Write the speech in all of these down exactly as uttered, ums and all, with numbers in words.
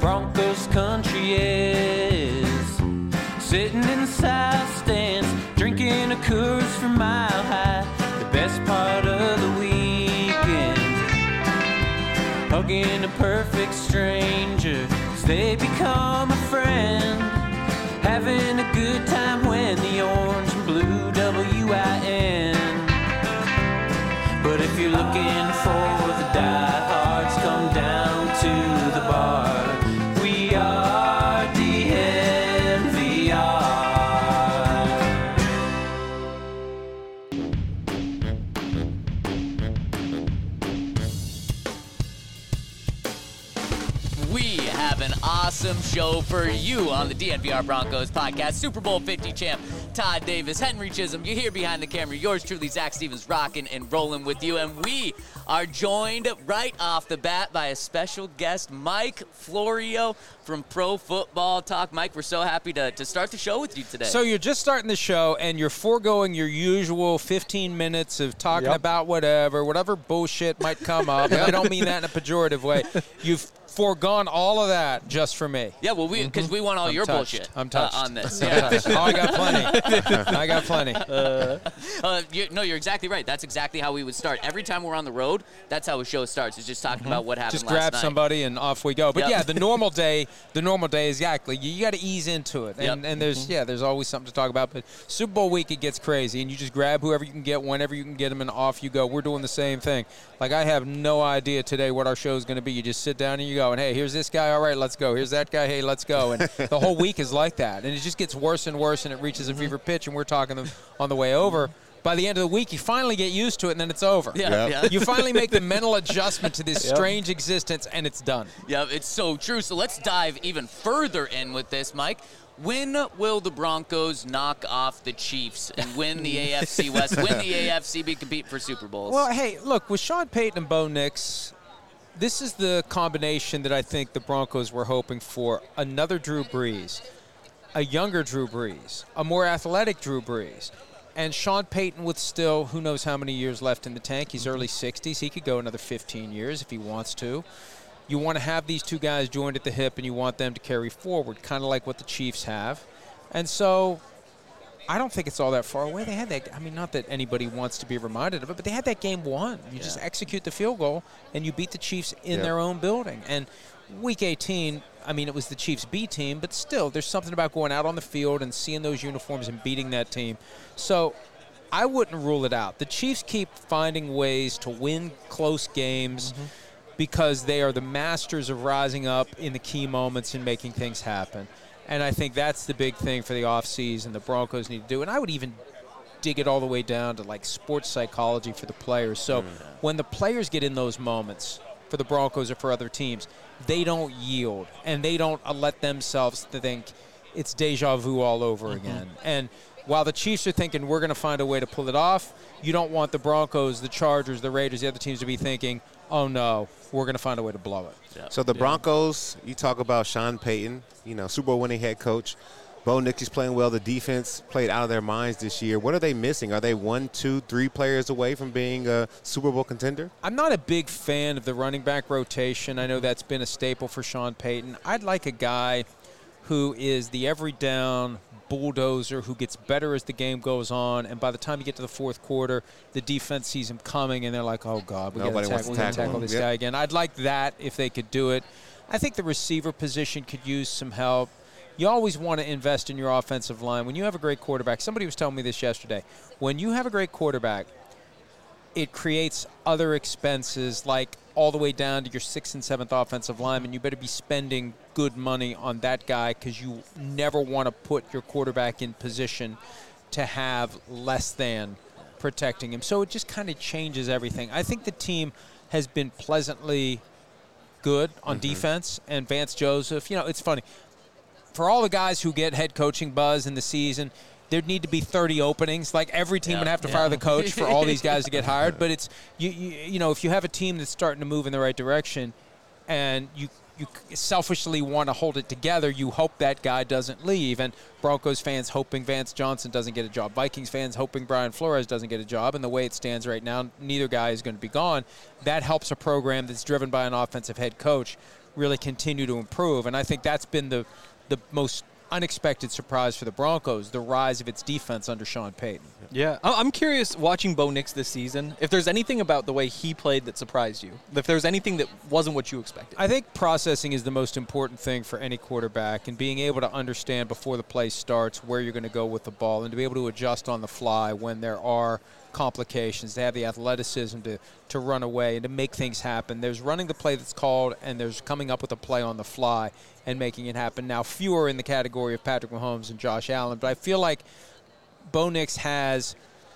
Broncos country is. Sitting in the south stands, drinking a Coors from Mile High. The best part of the weekend, hugging a perfect stranger, 'cause they become a friend. Having a good time when the orange and blue W I N. But if you're looking for the diehards, come down to the bar. We are D N V R. We have an awesome show for you on the D N V R Broncos podcast. Super Bowl fifty champ Todd Davis, Henry Chisholm. You're here behind the camera. Yours truly, Zach Stevens, rocking and rolling with you. And we are joined right off the bat by a special guest, Mike Florio from Pro Football Talk. Mike, we're so happy to, to start the show with you today. So you're just starting the show, and you're foregoing your usual fifteen minutes of talking Yep. about whatever, whatever bullshit might come up. And I don't mean that in a pejorative way. You've foregone all of that just for me. Yeah, well, we because we want all I'm your touched. bullshit I'm touched. Uh, on this. I'm Yeah. touched. Oh, I got plenty. I got plenty. Uh, you, no, you're exactly right. That's exactly how we would start. Every time we're on the road, that's how a show starts. It's just talking about what happened Just last grab night. somebody and off we go. But Yep. yeah, the normal day, the normal day, exactly. You, you got to ease into it, and, Yep. and there's yeah, there's always something to talk about. But Super Bowl week, it gets crazy, and you just grab whoever you can get, whenever you can get them, and off you go. We're doing the same thing. Like I have no idea today what our show is going to be. You just sit down and you go, and hey, here's this guy. All right, let's go. Here's that guy. Hey, let's go. And the whole week is like that, and it just gets worse and worse, and it reaches a fever pitch. And we're talking them on the way over. By the end of the week, you finally get used to it, and then it's over. Yeah, Yep. yeah. You finally make the mental adjustment to this Yep. strange existence, and it's done. Yeah, it's so true. So let's dive even further in with this, Mike. When will the Broncos knock off the Chiefs and win the A F C West? Win the A F C, be compete for Super Bowls? Well, hey, look, with Sean Payton and Bo Nix, this is the combination that I think the Broncos were hoping for. Another Drew Brees, a younger Drew Brees, a more athletic Drew Brees, and Sean Payton with still who knows how many years left in the tank. He's early sixties. He could go another fifteen years if he wants to. You want to have these two guys joined at the hip, and you want them to carry forward, kind of like what the Chiefs have. And so I don't think it's all that far away. They had that – I mean, not that anybody wants to be reminded of it, but they had that game won. You just execute the field goal, and you beat the Chiefs in Yeah. their own building. And Week eighteen, I mean, it was the Chiefs' B team, but still, there's something about going out on the field and seeing those uniforms and beating that team. So I wouldn't rule it out. The Chiefs keep finding ways to win close games Mm-hmm. because they are the masters of rising up in the key moments and making things happen. And I think that's the big thing for the offseason the Broncos need to do. And I would even dig it all the way down to, like, sports psychology for the players. So when the players get in those moments for the Broncos or for other teams, they don't yield, and they don't uh, let themselves to think it's deja vu all over Mm-hmm. again. And while the Chiefs are thinking we're going to find a way to pull it off, you don't want the Broncos, the Chargers, the Raiders, the other teams to be thinking, oh, no, we're going to find a way to blow it. So the Broncos, you talk about Sean Payton, you know, Super Bowl winning head coach. Bo Nix is playing well. The defense played out of their minds this year. What are they missing? Are they one, two, three players away from being a Super Bowl contender? I'm not a big fan of the running back rotation. I know that's been a staple for Sean Payton. I'd like a guy who is the every down bulldozer who gets better as the game goes on, and by the time you get to the fourth quarter, the defense sees him coming, and they're like, oh, God, we got Nobody to wants to tackle, tackle tackle him. this Yep. guy again. I'd like that if they could do it. I think the receiver position could use some help. You always want to invest in your offensive line. When you have a great quarterback, somebody was telling me this yesterday, when you have a great quarterback, it creates other expenses like all the way down to your sixth and seventh offensive lineman. You better be spending good money on that guy because you never want to put your quarterback in position to have less than protecting him. So it just kind of changes everything. I think the team has been pleasantly good on Mm-hmm. defense, and Vance Joseph, you know, it's funny. For all the guys who get head coaching buzz in the season, there'd need to be thirty openings. Like every team Yeah, would have to yeah. fire the coach for all these guys to get hired. But it's you, you, you know, if you have a team that's starting to move in the right direction, and you you selfishly want to hold it together, you hope that guy doesn't leave. And Broncos fans hoping Vance Johnson doesn't get a job. Vikings fans hoping Brian Flores doesn't get a job. And the way it stands right now, neither guy is going to be gone. That helps a program that's driven by an offensive head coach really continue to improve. And I think that's been the the most unexpected surprise for the Broncos, the rise of its defense under Sean Payton. Yeah, I- I'm curious, watching Bo Nix this season, if there's anything about the way he played that surprised you, if there's anything that wasn't what you expected. I think processing is the most important thing for any quarterback, and being able to understand before the play starts where you're going to go with the ball and to be able to adjust on the fly when there are complications, to have the athleticism to, to run away and to make things happen. There's running the play that's called, and there's coming up with a play on the fly and making it happen. Now, fewer in the category of Patrick Mahomes and Josh Allen, but I feel like Bo Nix has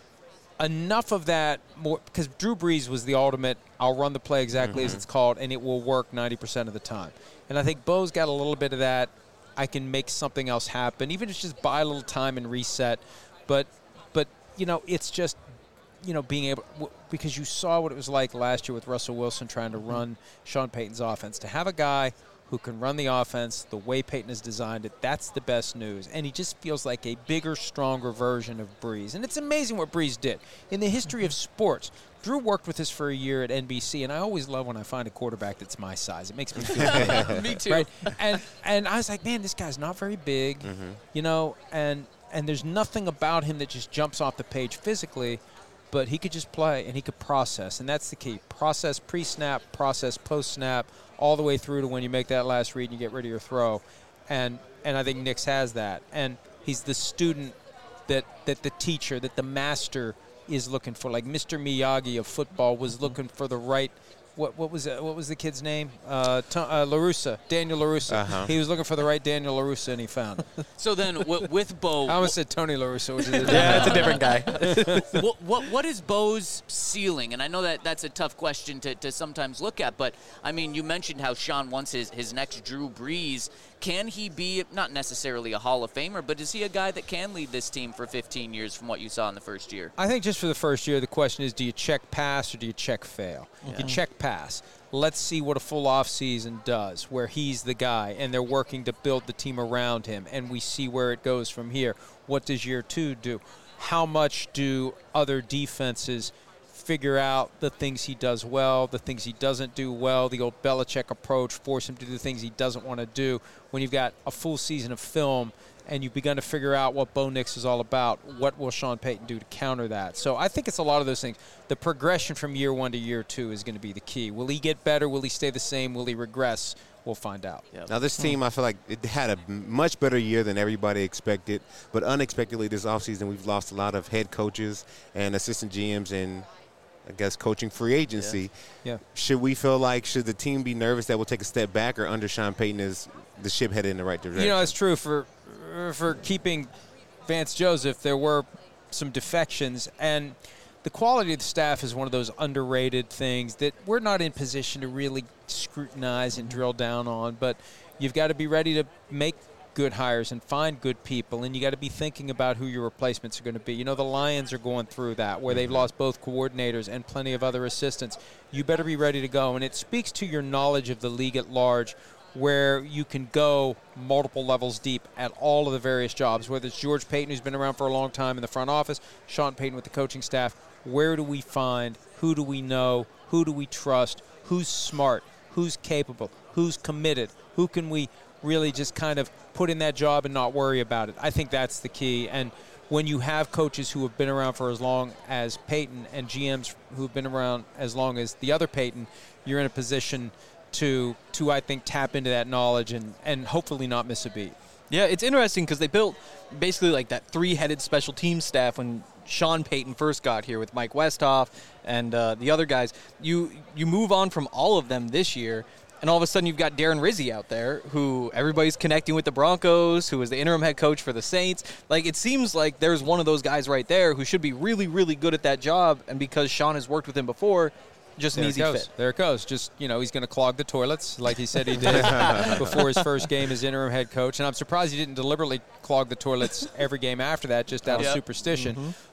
enough of that more, because Drew Brees was the ultimate, I'll run the play exactly mm-hmm. as it's called, and it will work ninety percent of the time. And I think Bo's got a little bit of that. I can make something else happen, even if it's just buy a little time and reset. But, but you know, it's just, you know, being able, because you saw what it was like last year with Russell Wilson trying to run Sean Payton's offense. To have a guy who can run the offense the way Payton has designed it, that's the best news. And he just feels like a bigger, stronger version of Brees. And it's amazing what Brees did. In the history of sports, Drew worked with us for a year at N B C, and I always love when I find a quarterback that's my size. It makes me feel good. Me too. Right? And, and I was like, man, this guy's not very big, Mm-hmm. you know, and, and there's nothing about him that just jumps off the page physically, but he could just play and he could process, and that's the key. Process pre-snap, process post-snap, all the way through to when you make that last read and you get rid of your throw. And and I think Nix has that. And he's the student that, that the teacher, that the master is looking for. Like Mister Miyagi of football was looking for the right – what what was it, what was the kid's name? Uh, Tom, uh, LaRussa, Daniel LaRussa. Uh-huh. He was looking for the right Daniel LaRussa, and he found it. So then w- with Bo... I almost said Tony LaRussa, which is a Yeah, it's a different guy. what, what what is Bo's ceiling? And I know that that's a tough question to, to sometimes look at, but I mean, you mentioned how Sean wants his, his next Drew Brees. Can he be not necessarily a Hall of Famer, but is he a guy that can lead this team for fifteen years from what you saw in the first year? I think just for the first year, the question is, do you check pass or do you check fail? Yeah. You check pass. Let's see what a full off season does, where he's the guy and they're working to build the team around him, and we see where it goes from here. What does year two do? How much do other defenses figure out the things he does well, the things he doesn't do well, the old Belichick approach, force him to do things he doesn't want to do? When you've got a full season of film and you've begun to figure out what Bo Nix is all about, what will Sean Payton do to counter that? So I think it's a lot of those things. The progression from year one to year two is going to be the key. Will he get better? Will he stay the same? Will he regress? We'll find out. Yep. Now, this team, I feel like it had a much better year than everybody expected, but unexpectedly this offseason we've lost a lot of head coaches and assistant G Ms and, I guess, coaching free agency. Yeah. Yeah. Should we feel like, should the team be nervous that we'll take a step back, or under Sean Payton is the ship headed in the right direction? You know, it's true. For for keeping Vance Joseph, there were some defections, and the quality of the staff is one of those underrated things that we're not in position to really scrutinize and drill down on, but you've got to be ready to make good hires and find good people, and you got to be thinking about who your replacements are going to be. You know, the Lions are going through that, where they've lost both coordinators and plenty of other assistants. You better be ready to go, and it speaks to your knowledge of the league at large, where you can go multiple levels deep at all of the various jobs, whether it's George Payton, who's been around for a long time in the front office, Sean Payton with the coaching staff. Where do we find, who do we know, who do we trust, who's smart, who's capable, who's committed, who can we really just kind of put in that job and not worry about it? I think that's the key. And when you have coaches who have been around for as long as Payton and G Ms who have been around as long as the other Payton, you're in a position to, to I think, tap into that knowledge and, and hopefully not miss a beat. Yeah, it's interesting because they built basically like that three-headed special team staff when Sean Payton first got here with Mike Westhoff and uh, the other guys. You you move on from all of them this year, and all of a sudden you've got Darren Rizzi out there, who everybody's connecting with the Broncos, who is the interim head coach for the Saints. Like, it seems like there's one of those guys right there who should be really, really good at that job, and because Sean has worked with him before, just an there easy it goes. fit. There it goes. Just, you know, he's going to clog the toilets like he said he did before his first game as interim head coach. And I'm surprised he didn't deliberately clog the toilets every game after that, just out Yep. of superstition. Mm-hmm.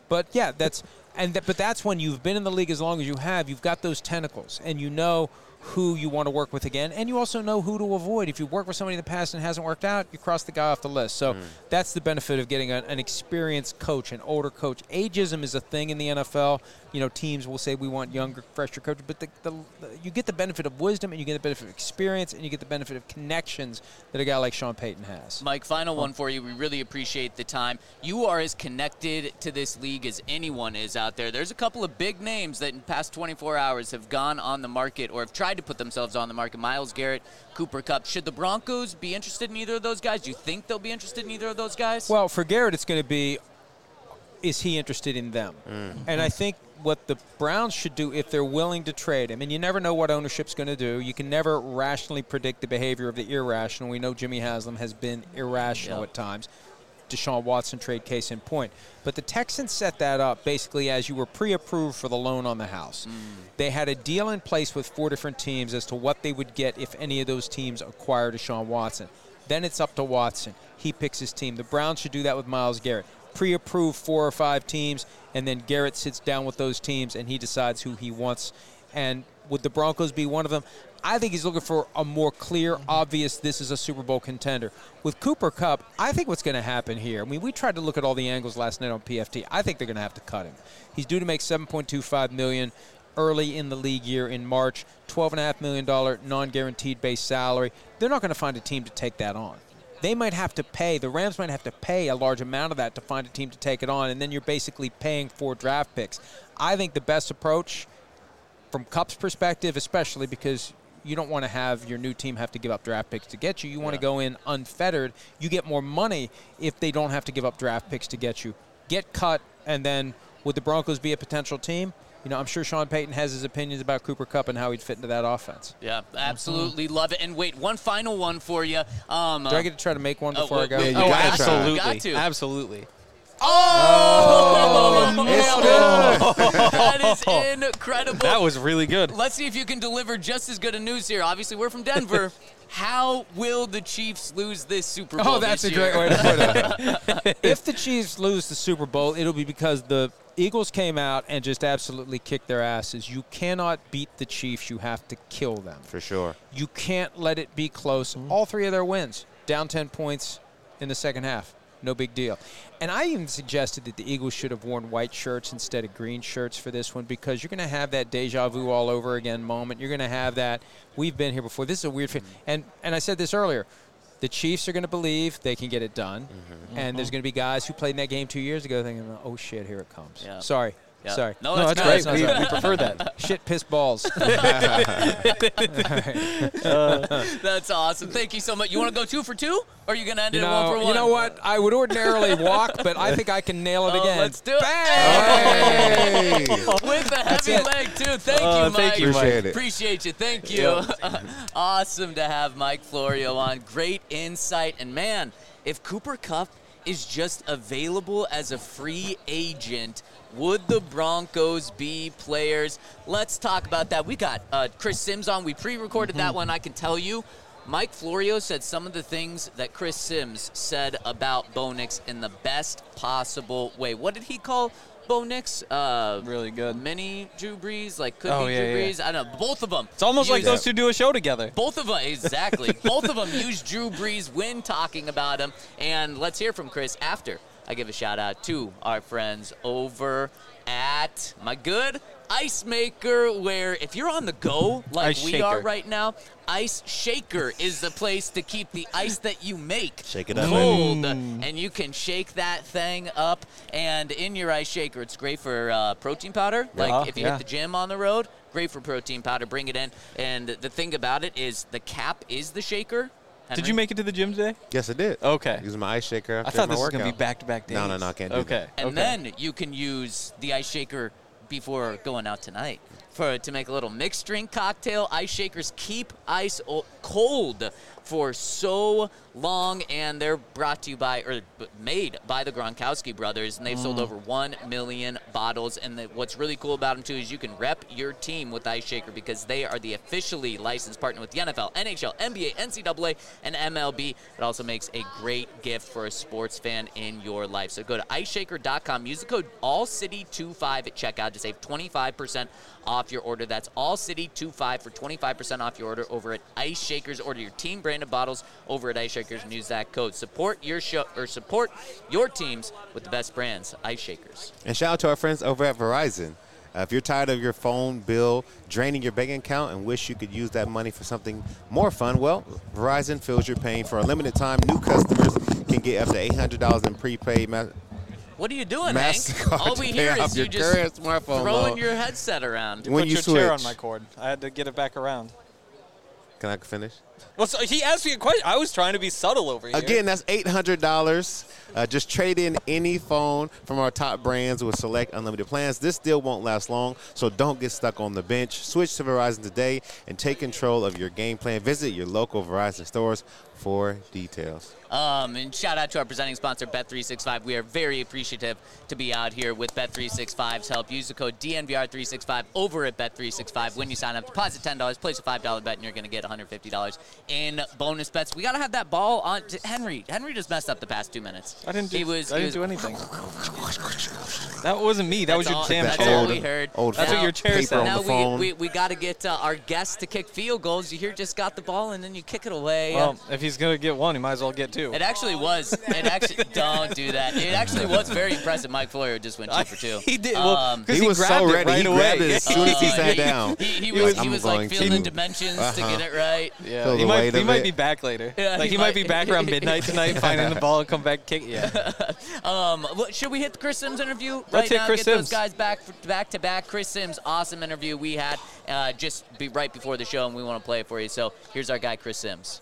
But yeah, that's and th- but that's when you've been in the league as long as you have. You've got those tentacles, and you know who you want to work with again, and you also know who to avoid. If you've worked with somebody in the past and it hasn't worked out, you cross the guy off the list. So mm. that's the benefit of getting a, an experienced coach, an older coach. Ageism is a thing in the N F L. You know, teams will say we want younger, fresher coaches, but the, the, the, you get the benefit of wisdom, and you get the benefit of experience, and you get the benefit of connections that a guy like Sean Payton has. Mike, final one for you. We really appreciate the time. You are as connected to this league as anyone is out there. There's a couple of big names that in the past twenty-four hours have gone on the market or have tried to put themselves on the market. Myles Garrett, Cooper Kupp. Should the Broncos be interested in either of those guys? Do you think they'll be interested in either of those guys? Well, for Garrett, it's going to be, is he interested in them? Mm. And I think what the Browns should do if they're willing to trade him, and you never know what ownership's going to do. You can never rationally predict the behavior of the irrational. We know Jimmy Haslam has been irrational yep. at times. Deshaun Watson trade case in point. But the Texans set that up basically as you were pre-approved for the loan on the house. Mm. They had a deal in place with four different teams as to what they would get if any of those teams acquired Deshaun Watson. Then it's up to Watson. He picks his team. The Browns should do that with Myles Garrett. Pre-approved four or five teams, and then Garrett sits down with those teams, and he decides who he wants. And would the Broncos be one of them? I think he's looking for a more clear, obvious, this is a Super Bowl contender. With Cooper Kupp, I think what's going to happen here, I mean, we tried to look at all the angles last night on P F T. I think they're going to have to cut him. He's due to make seven point two five million dollars early in the league year in March, twelve point five million dollars non-guaranteed base salary. They're not going to find a team to take that on. They might have to pay, the Rams might have to pay a large amount of that to find a team to take it on, and then you're basically paying for draft picks. I think the best approach from Kupp's perspective, especially because you don't want to have your new team have to give up draft picks to get you. You want yeah. to go in unfettered. You get more money if they don't have to give up draft picks to get you. Get cut, and then would the Broncos be a potential team? You know, I'm sure Sean Payton has his opinions about Cooper Kupp and how he'd fit into that offense. Yeah, absolutely mm-hmm. love it. And wait, one final one for you. Um, Do I get to try to make one before oh, I go? Yeah, you oh, got absolutely. Absolutely. Got to. Absolutely. Oh! Oh, it's good. That is incredible. That was really good. Let's see if you can deliver just as good a news here. Obviously, we're from Denver. How will the Chiefs lose this Super Bowl Oh, that's this a year? great way to put it. If the Chiefs lose the Super Bowl, it'll be because the Eagles came out and just absolutely kicked their asses. You cannot beat the Chiefs. You have to kill them. For sure. You can't let it be close. Mm-hmm. All three of their wins, down ten points in the second half. No big deal. And I even suggested that the Eagles should have worn white shirts instead of green shirts for this one because you're going to have that deja vu all over again moment. You're going to have that, we've been here before. This is a weird thing. And, and I said this earlier. The Chiefs are going to believe they can get it done. Mm-hmm. And there's going to be guys who played in that game two years ago thinking, oh, shit, here it comes. Yeah. Sorry. Yeah. Sorry. No, no that's, that's great. great. We, we prefer that. Shit, piss balls. uh, that's awesome. Thank you so much. You want to go two for two? Or are you going to end you it know, one for one? You know what? I would ordinarily walk, but I think I can nail it oh, again. Let's do it. Bang! Hey! With a heavy leg, too. Thank uh, you, Mike. Thank you, Appreciate Mike. it. Appreciate you. Thank you. Awesome to have Mike Florio on. Great insight. And, man, if Cooper Kupp is just available as a free agent, would the Broncos be players? Let's talk about that. We got uh, Chris Sims on. We pre-recorded mm-hmm. that one. I can tell you, Mike Florio said some of the things that Chris Sims said about Bo Nix in the best possible way. What did he call Bo Nix? Uh, really good. Mini Drew Brees? Like, could oh, be yeah, Drew yeah. Brees? I don't know. Both of them. It's almost like used, those two do a show together. Both of them, exactly. Both of them used Drew Brees when talking about him. And let's hear from Chris after I give a shout out to our friends over at my good Ice Maker, where if you're on the go like Ice we Shaker. are right now, Ice Shaker is the place to keep the ice that you make Shake it up. cold. Mm. And you can shake that thing up. And in your Ice Shaker, it's great for uh, protein powder. Like uh, if you yeah. hit the gym on the road, great for protein powder. Bring it in. And the thing about it is the cap is the shaker. Henry? Did you make it to the gym today? Yes, I did. Okay. Using my ice shaker after I thought my this was workout. going to be back-to-back days. No, no, no, I can't do okay. that. And okay. then you can use the Ice Shaker before going out tonight for to make a little mixed drink cocktail. Ice Shakers keep ice o- cold for so long, and they're brought to you by, or made by the Gronkowski brothers, and they've mm. sold over one million bottles. And the, what's really cool about them, too, is you can rep your team with Ice Shaker because they are the officially licensed partner with the N F L, N H L, N B A, N C double A, and M L B. It also makes a great gift for a sports fan in your life. So go to ice shaker dot com, use the code all city twenty-five at checkout to save twenty-five percent off your order. That's all city twenty-five for twenty-five percent off your order over at Ice Shakers. Order your team branded bottles over at Ice Shakers and use that code. Support your show or support your teams with the best brands, Ice Shakers. And shout out to our friends over at Verizon. Uh, if you're tired of your phone bill draining your bank account and wish you could use that money for something more fun, well, Verizon feels your pain. For a limited time, new customers can get up to eight hundred dollars in prepaid. Ma- what are you doing, Hank? All we hear is you just throwing load. your headset around. You when put you your switch. chair on my cord. I had to get it back around. Can I finish? Well, so he asked me a question. I was trying to be subtle over here. Again, that's eight hundred dollars. Uh, just trade in any phone from our top brands with select unlimited plans. This deal won't last long, so don't get stuck on the bench. Switch to Verizon today and take control of your game plan. Visit your local Verizon stores for details. Um, and shout out to our presenting sponsor, Bet three sixty-five. We are very appreciative to be out here with Bet three sixty-five's help. Use the code D N V R three sixty-five over at Bet three sixty-five. When you sign up, deposit ten dollars, place a five dollar bet, and you're going to get one hundred fifty dollars in bonus bets. We got to have that ball on. Henry Henry just messed up the past two minutes. I didn't do, he was, I he didn't was, do anything. That wasn't me. That that's was your all, damn that's chair. all we heard. Old that's now, what your chair paper said. on now the phone. we, we, we got to get uh, our guests to kick field goals. You hear just got the ball, and then you kick it away. Well, if he's going to get one, he might as well get two. It actually was. It actually don't do that. It actually was very impressive. Mike Florio just went two for two. He did. Well, Um, he, he was grabbed so it ready. right he away. grabbed it as soon as he Uh, sat down. He, he He was, was, he "I'm was like going feeling to." the dimensions Uh-huh. to get it right. Yeah, Feel he the might. weight He of might it. be back later. Yeah, like he he might might- be back around midnight tonight, finding the ball and come back kick. Yeah. Um, what- should we hit the Chris Sims interview right Let's hit now? Chris Get Sims. those guys back back to back. Chris Sims, awesome interview we had uh, just be right before the show, and we want to play it for you. So here's our guy, Chris Sims.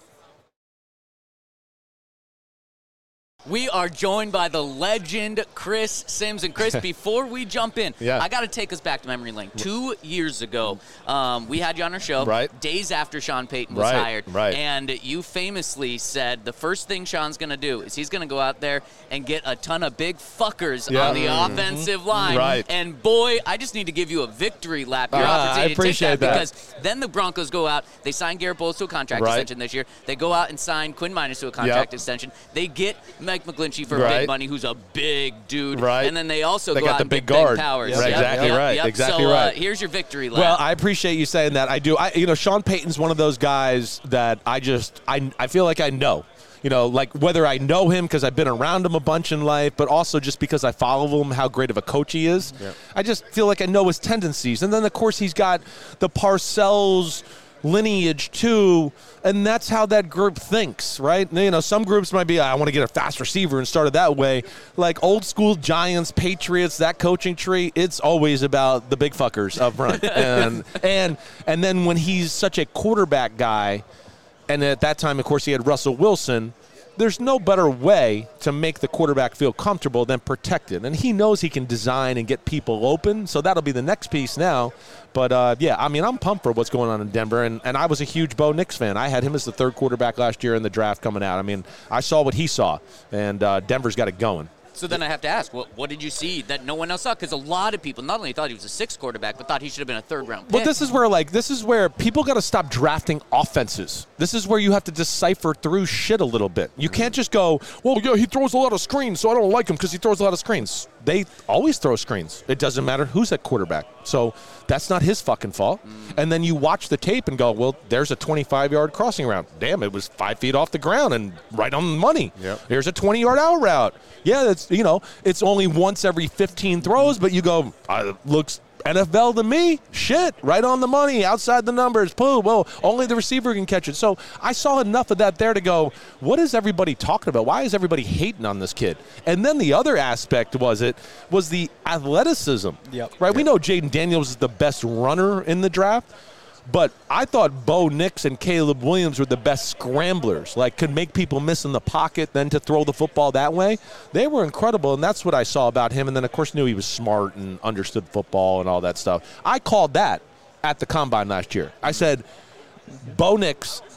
We are joined by the legend Chris Sims. And Chris, before we jump in, Yeah. I got to take us back to memory lane. Two years ago, um, we had you on our show, Right. days after Sean Payton was Right, hired. right. And you famously said the first thing Sean's going to do is he's going to go out there and get a ton of big fuckers Yeah. on the Mm-hmm. offensive line. Right. And boy, I just need to give you a victory lap. Your Ah, I opportunity appreciate to take that, that. because then the Broncos go out, they sign Garrett Bowles to a contract Right. extension this year. They go out and sign Quinn Miners to a contract Yep. extension. They get Mike McGlinchey for Right. big money, who's a big dude. Right. And then they also They go got out the and big get Ben guard. Powers. Right, Yep, exactly yep, right, yep. exactly so, right. Uh, here's your victory lap. Well, I appreciate you saying that. I do. I, you know, Sean Payton's one of those guys that I just, I, I feel like I know. You know, like whether I know him because I've been around him a bunch in life, but also just because I follow him, how great of a coach he is. Yep. I just feel like I know his tendencies. And then, of course, he's got the Parcells lineage too, and that's how that group thinks, right? You know, some groups might be, I want to get a fast receiver and start it that way. Like old school Giants, Patriots, that coaching tree, it's always about the big fuckers up front. and and and then when he's such a quarterback guy, and at that time, of course, he had Russell Wilson, there's no better way to make the quarterback feel comfortable than protected. And he knows he can design and get people open, so that'll be the next piece now. But, uh, yeah, I mean, I'm pumped for what's going on in Denver, and, and I was a huge Bo Nix fan. I had him as the third quarterback last year in the draft coming out. I mean, I saw what he saw, and uh, Denver's got it going. So then I have to ask, what, what did you see that no one else saw? Because a lot of people not only thought he was a sixth quarterback, but thought he should have been a third-round pick. But this is where, like, this is where people got to stop drafting offenses. This is where you have to decipher through shit a little bit. You can't just go, well, yeah, he throws a lot of screens, so I don't like him because he throws a lot of screens. They always throw screens. It doesn't matter who's at quarterback. So that's not his fucking fault. Mm. And then you watch the tape and go, well, there's a twenty-five-yard crossing route. Damn, it was five feet off the ground and right on the money. Yep. There's a twenty-yard out route. Yeah, that's, you know, it's only once every fifteen throws, but you go, uh, looks N F L to me. Shit, right on the money, outside the numbers. Pooh, well, only the receiver can catch it. So I saw enough of that there to go, what is everybody talking about? Why is everybody hating on this kid? And then the other aspect was it was the athleticism. Yep. Right? Yep. We know Jaden Daniels is the best runner in the draft. But I thought Bo Nix and Caleb Williams were the best scramblers, like could make people miss in the pocket, then to throw the football that way. They were incredible, and that's what I saw about him. And then, of course, knew he was smart and understood football and all that stuff. I called that at the Combine last year. I said, Bo Nix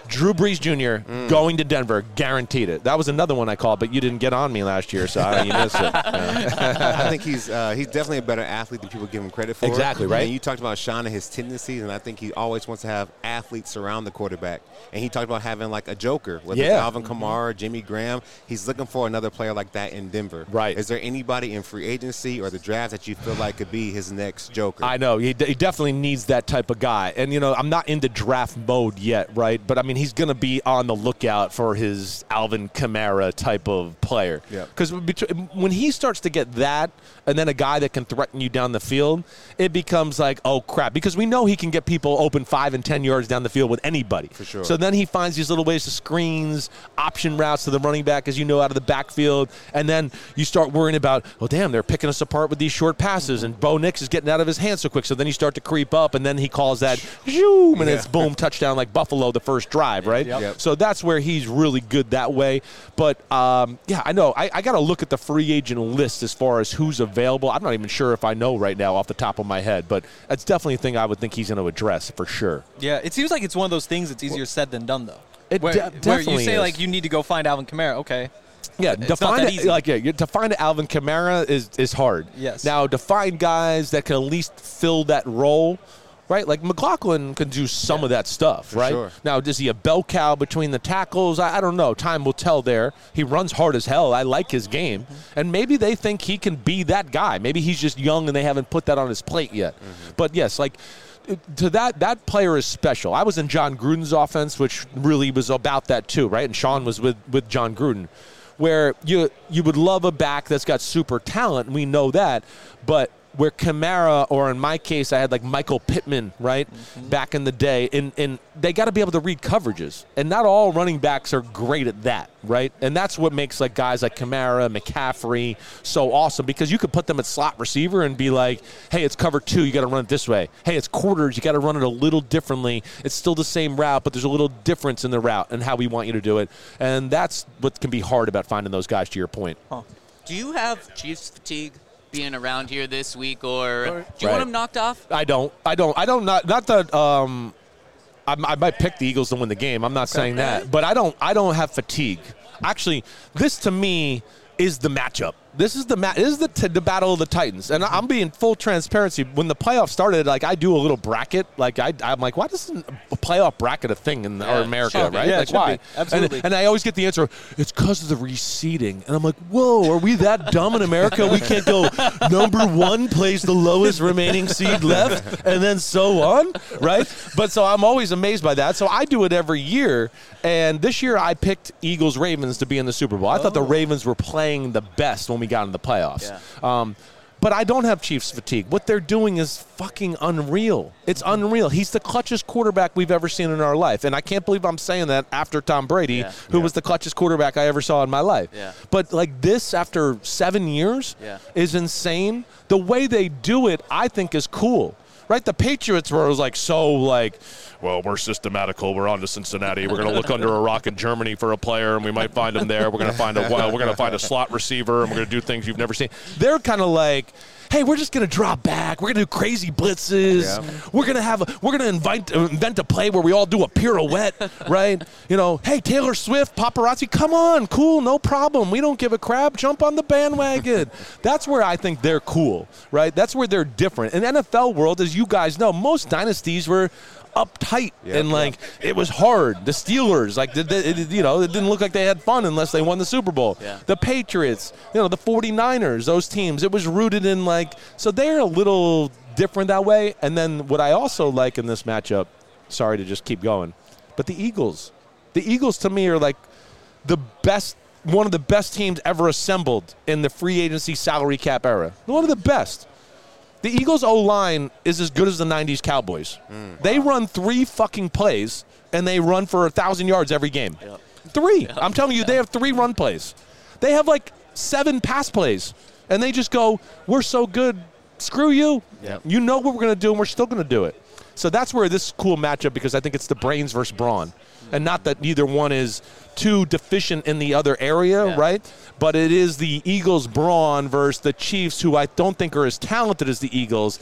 Drew Brees Junior Mm. going to Denver, guaranteed it. That was another one I called, but you didn't get on me last year, so I, you missed it. Yeah. I think he's uh, he's definitely a better athlete than people give him credit for. Exactly, right? And you talked about Sean and his tendencies, and I think he always wants to have athletes surround the quarterback. And he talked about having like a joker, whether Yeah. it's Alvin Kamara, Jimmy Graham. He's looking for another player like that in Denver. Right. Is there anybody in free agency or the draft that you feel like could be his next joker? I know. He, d- he definitely needs that type of guy. And, you know, I'm not into draft mode yet, right? But, I mean, he's going to be on the lookout for his Alvin Kamara type of player. Yeah. Because when he starts to get that and then a guy that can threaten you down the field, it becomes like, oh, crap. Because we know he can get people open five and ten yards down the field with anybody. For sure. So then he finds these little ways to screens, option routes to the running back, as you know, out of the backfield. And then you start worrying about, oh, damn, they're picking us apart with these short passes. And Bo Nix is getting out of his hands so quick. So then you start to creep up, and then he calls that, zoom, and Yeah. it's boom, touchdown like Buffalo the first drive, right? Yep. Yep. So that's where he's really good that way. But, um, yeah, I know. I, I got to look at the free agent list as far as who's available. I'm not even sure if I know right now off the top of my head, but that's definitely a thing I would think he's going to address for sure. Yeah, it seems like it's one of those things that's easier said than done, though. It where, de- where definitely you say, is. like, you need to go find Alvin Kamara. Okay. Yeah, It's to not find that it, easy. like yeah, you- to find Alvin Kamara is is hard. Yes. Now to find guys that can at least fill that role, right? Like McLaughlin can do some of that stuff, right? sure. Now is he a bell cow between the tackles? I, I don't know. Time will tell. There, he runs hard as hell. I like his game, Mm-hmm. and maybe they think he can be that guy. Maybe he's just young and they haven't put that on his plate yet. Mm-hmm. But yes, like. To that, that player is special. I was in John Gruden's offense, which really was about that too, right? And Sean was with, with John Gruden, where you you would love a back that's got super talent, and we know that, but where Kamara, or in my case, I had like Michael Pittman, right, Mm-hmm. back in the day, and, and they got to be able to read coverages, and not all running backs are great at that, right? And that's what makes like guys like Kamara, McCaffrey so awesome, because you could put them at slot receiver and be like, hey, it's cover two, you got to run it this way. Hey, it's quarters, you got to run it a little differently. It's still the same route, but there's a little difference in the route and how we want you to do it, and that's what can be hard about finding those guys, to your point. Do you have Chiefs fatigue being around here this week, or do you Right. want them knocked off? I don't. I don't. I don't. Not. Not that. Um, I, I might pick the Eagles to win the game. I'm not saying that, but I don't. I don't have fatigue. Actually, this to me is the matchup. This is the ma- This is the t- the battle of the Titans, and I'm being full transparency. When the playoffs started, like I do a little bracket. Like I, I'm like, why isn't a playoff bracket a thing in Yeah, our America, should be. right? Yeah, it like should why? be. Absolutely. And, and I always get the answer, it's because of the reseeding, and I'm like, whoa, are we that dumb in America? We can't go number one plays the lowest remaining seed left, and then so on, right? But so I'm always amazed by that. So I do it every year, and this year I picked Eagles Ravens to be in the Super Bowl. I thought the Ravens were playing the best when we got in the playoffs. Yeah. Um, but I don't have Chiefs fatigue. What they're doing is fucking unreal. It's unreal. He's the clutchest quarterback we've ever seen in our life. And I can't believe I'm saying that after Tom Brady, Yeah. who Yeah. was the clutchest quarterback I ever saw in my life. Yeah. But like this after seven years Yeah. is insane. The way they do it, I think, is cool. Right? The Patriots were like so like, well, we're systematical. We're on to Cincinnati. We're going to look under a rock in Germany for a player, and we might find him there. We're going to find a well, we're going to find a slot receiver, and we're going to do things you've never seen. They're kind of like, hey, we're just going to drop back. We're going to do crazy blitzes. Yeah. We're going to have a, we're going to invent invent a play where we all do a pirouette, right? You know, hey, Taylor Swift, paparazzi, come on, cool, no problem. We don't give a crap. Jump on the bandwagon. That's where I think they're cool, right? That's where they're different. In the N F L world, as you guys know, most dynasties were uptight Yep, and like it was hard. The Steelers, like did it, you know, it didn't look like they had fun unless they won the Super Bowl. Yeah. The Patriots, you know, the forty-niners, those teams, it was rooted in like, so they're a little different that way. And then what I also like in this matchup, sorry to just keep going, but the Eagles, the Eagles to me are like the best, one of the best teams ever assembled in the free agency salary cap era. One of the best. The Eagles' O-line is as good as the nineties Cowboys. Mm, they run three fucking plays, and they run for one thousand yards every game. Yep. Three. Yep. I'm telling you, they have three run plays. They have like seven pass plays, and they just go, we're so good, screw you. Yep. You know what we're going to do, and we're still going to do it. So that's where this is a cool matchup, because I think it's the brains versus brawn, and not that neither one is too deficient in the other area, Yeah. right? But it is the Eagles' brawn versus the Chiefs, who I don't think are as talented as the Eagles.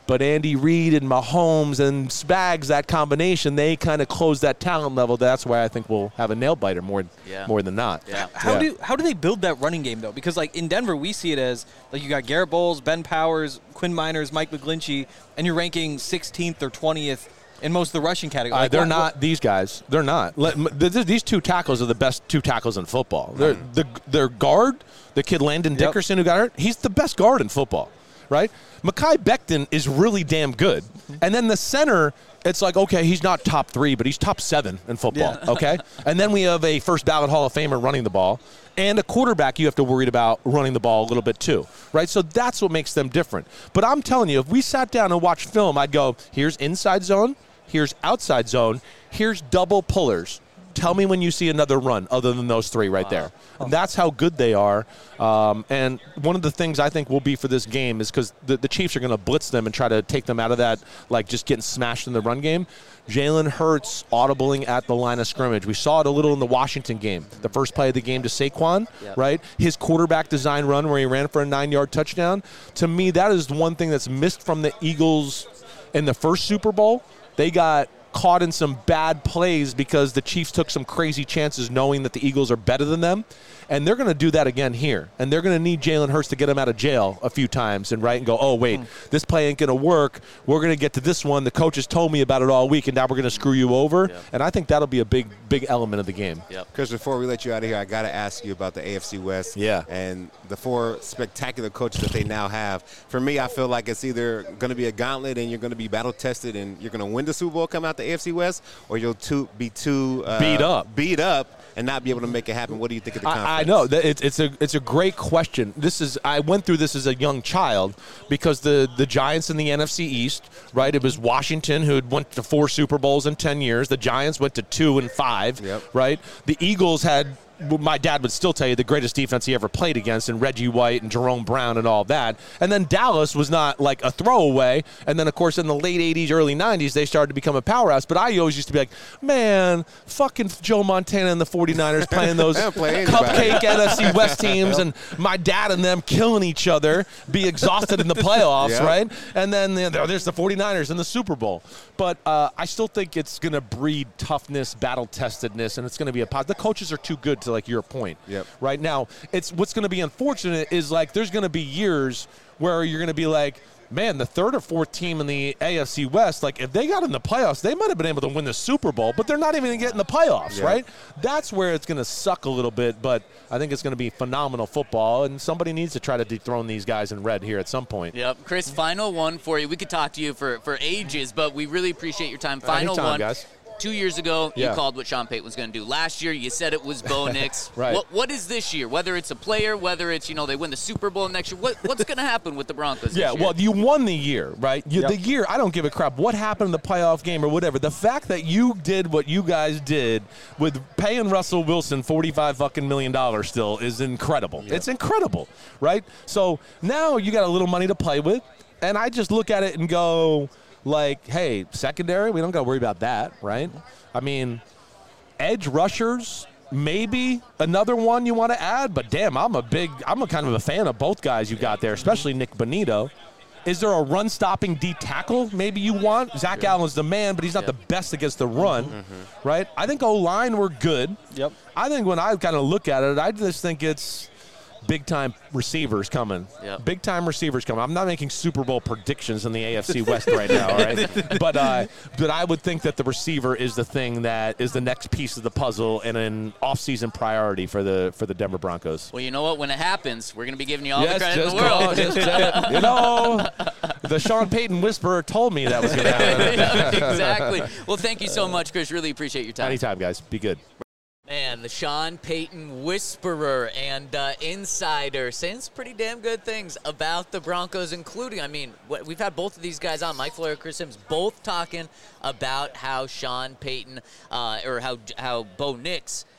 But Andy Reid and Mahomes and Spags, that combination, they kind of close that talent level. That's why I think we'll have a nail biter more, Yeah. more than not. Yeah. How Yeah. do how do they build that running game though? Because like in Denver, we see it as like you got Garrett Bowles, Ben Powers, Quinn Miners, Mike McGlinchey, and you're ranking sixteenth or twentieth in most of the rushing category. Uh, Like, they're what- not these guys. They're not. Let, m- th- th- these two tackles are the best two tackles in football. They're, the their guard, the kid Landon Yep. Dickerson who got hurt, he's the best guard in football, right? Mekhi Becton is really damn good. And then the center, it's like, okay, he's not top three, but he's top seven in football, Yeah. okay? And then we have a first ballot Hall of Famer running the ball, and a quarterback you have to worry about running the ball a little bit too, right? So that's what makes them different. But I'm telling you, if we sat down and watched film, I'd go, here's inside zone, here's outside zone, here's double pullers. Tell me when you see another run other than those three right there. And that's how good they are. Um, and one of the things I think will be for this game is because the, the Chiefs are going to blitz them and try to take them out of that, like just getting smashed in the run game. Jalen Hurts audibling at the line of scrimmage. We saw it a little in the Washington game. The first play of the game to Saquon, Yep. right? His quarterback design run where he ran for a nine-yard touchdown. To me, that is the one thing that's missed from the Eagles in the first Super Bowl. They got caught in some bad plays because the Chiefs took some crazy chances knowing that the Eagles are better than them. And they're going to do that again here. And they're going to need Jalen Hurts to get him out of jail a few times and right and go, oh, wait, this play ain't going to work. We're going to get to this one. The coaches told me about it all week, and now we're going to screw you over. Yep. And I think that'll be a big, big element of the game. Yep. Chris, before we let you out of here, I got to ask you about the A F C West. Yeah. And the four spectacular coaches that they now have. For me, I feel like it's either going to be a gauntlet and you're going to be battle tested and you're going to win the Super Bowl, come out the A F C West, or you'll too, be too uh, Beat up. beat up and not be able to make it happen. What do you think of the conference? I, I know that it's it's a it's a great question. This is I went through this as a young child because the the Giants in the N F C East, right? It was Washington who had went to four Super Bowls in ten years. The Giants went to two and five, Yep. right? The Eagles had. My dad would still tell you the greatest defense he ever played against, and Reggie White and Jerome Brown and all that. And then Dallas was not like a throwaway. And then, of course, in the late eighties, early nineties, they started to become a powerhouse. But I always used to be like, man, fucking Joe Montana and the forty-niners playing those They'll play anybody. cupcake N F C West teams, and my dad and them killing each other, be exhausted in the playoffs, Yeah. right? And then you know, there's the forty-niners in the Super Bowl. But uh, I still think it's going to breed toughness, battle-testedness, and it's going to be a positive. The coaches are too good to, like, your point. Yep. Right now, it's what's going to be unfortunate is, like, there's going to be years where you're going to be like, man, the third or fourth team in the A F C West, like, if they got in the playoffs, they might have been able to win the Super Bowl, but they're not even going to get in the playoffs, Yeah. right? That's where it's going to suck a little bit, but I think it's going to be phenomenal football, and somebody needs to try to dethrone these guys in red here at some point. Yep. Chris, final one for you. We could talk to you for, for ages, but we really appreciate your time. Final Anytime, one. guys. Two years ago, Yeah. you called what Sean Payton was going to do. Last year, you said it was Bo Nix. Right. What, what is this year? Whether it's a player, whether it's, you know, they win the Super Bowl next year, what, what's going to happen with the Broncos Yeah, this year? well, you won the year, right? You, Yep. The year, I don't give a crap what happened in the playoff game or whatever. The fact that you did what you guys did with paying Russell Wilson forty-five fucking million dollars still is incredible. It's incredible, right? So now you got a little money to play with, and I just look at it and go, like, hey, secondary, we don't got to worry about that, right? I mean, edge rushers, maybe another one you want to add, but damn, I'm a big, I'm a kind of a fan of both guys you got there, especially Nick Bonito. Is there a run-stopping D tackle maybe you want? Zach Allen's the man, but he's not the best against the run, right? I think O-line were good. Yep. I think when I kind of look at it, I just think it's big-time receivers coming. Yep. Big-time receivers coming. I'm not making Super Bowl predictions in the A F C West right now, all right? But, uh, but I would think that the receiver is the thing that is the next piece of the puzzle and an off-season priority for the for the Denver Broncos. Well, you know what? When it happens, we're going to be giving you all Yes, the credit in just the world. call, just say it. You know, the Sean Payton whisperer told me that was going to happen. Yeah, exactly. Well, thank you so much, Chris. Really appreciate your time. Anytime, guys. Be good. Man, the Sean Payton whisperer and uh, insider saying some pretty damn good things about the Broncos, including, I mean, wh- we've had both of these guys on, Mike Florio, Chris Sims, both talking about how Sean Payton uh, or how how Bo Nix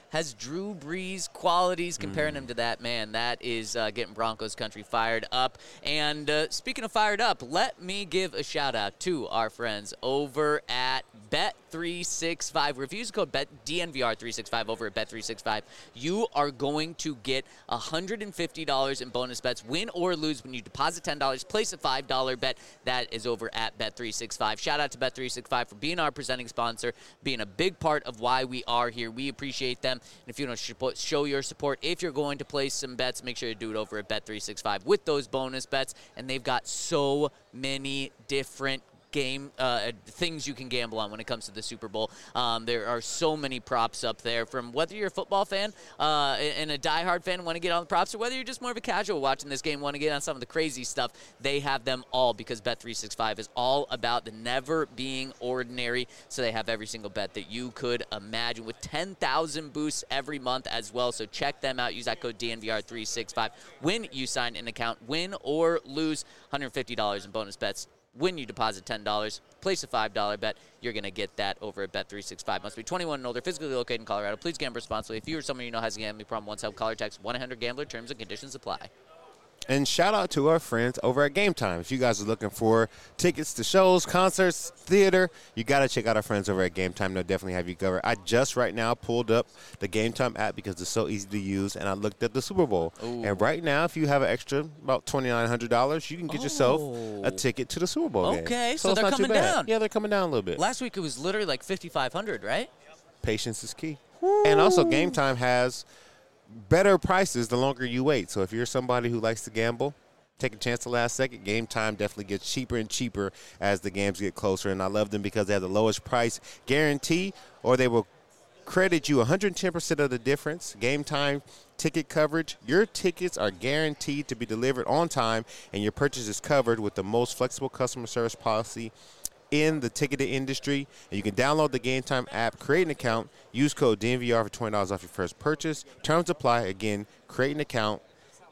has Drew Brees qualities. Comparing him to that man, that is uh, getting Broncos country fired up. And uh, speaking of fired up, let me give a shout out to our friends over at Bet three sixty-five. If you use the code D N V R three sixty-five over at Bet three sixty-five, you are going to get one hundred fifty dollars in bonus bets, win or lose, when you deposit ten dollars. Place a five dollar bet. That is over at Bet three sixty-five. Shout out to Bet three sixty-five for being our presenting sponsor, being a big part of why we are here. We appreciate them. And if you want to show your support, if you're going to place some bets, make sure you do it over at Bet three sixty-five with those bonus bets. And they've got so many different game uh, things you can gamble on when it comes to the Super Bowl. Um, there are so many props up there, from whether you're a football fan uh, and a diehard fan want to get on the props, or whether you're just more of a casual watching this game, want to get on some of the crazy stuff. They have them all, because Bet three sixty-five is all about the never being ordinary. So they have every single bet that you could imagine, with ten thousand boosts every month as well. So check them out. Use that code D N V R three sixty-five when you sign an account. Win or lose, one hundred fifty dollars in bonus bets when you deposit ten dollars. Place a five dollar bet. You're going to get that over at Bet three sixty-five. Must be twenty-one and older, physically located in Colorado. Please gamble responsibly. If you or someone you know has a gambling problem, once help, call or text one eight hundred gambler. Terms and conditions apply. And shout out to our friends over at Game Time. If you guys are looking for tickets to shows, concerts, theater, you got to check out our friends over at Game Time. They'll definitely have you covered. I just right now pulled up the Game Time app because it's so easy to use, and I looked at the Super Bowl. Ooh. And right now, if you have an extra about twenty-nine hundred dollars, you can get yourself Oh. a ticket to the Super Bowl game. Okay, so it's they're not too coming bad. down. Yeah, they're coming down a little bit. Last week it was literally like fifty-five hundred, right? Patience is key. And also, Game Time has better prices the longer you wait. So if you're somebody who likes to gamble, take a chance the last second. Game Time definitely gets cheaper and cheaper as the games get closer. And I love them because they have the lowest price guarantee, or they will credit you one hundred ten percent of the difference. Game Time ticket coverage. Your tickets are guaranteed to be delivered on time, and your purchase is covered with the most flexible customer service policy in the ticketed industry. And you can download the Game Time app, create an account, use code D N V R for twenty dollars off your first purchase. Terms apply. Again, create an account,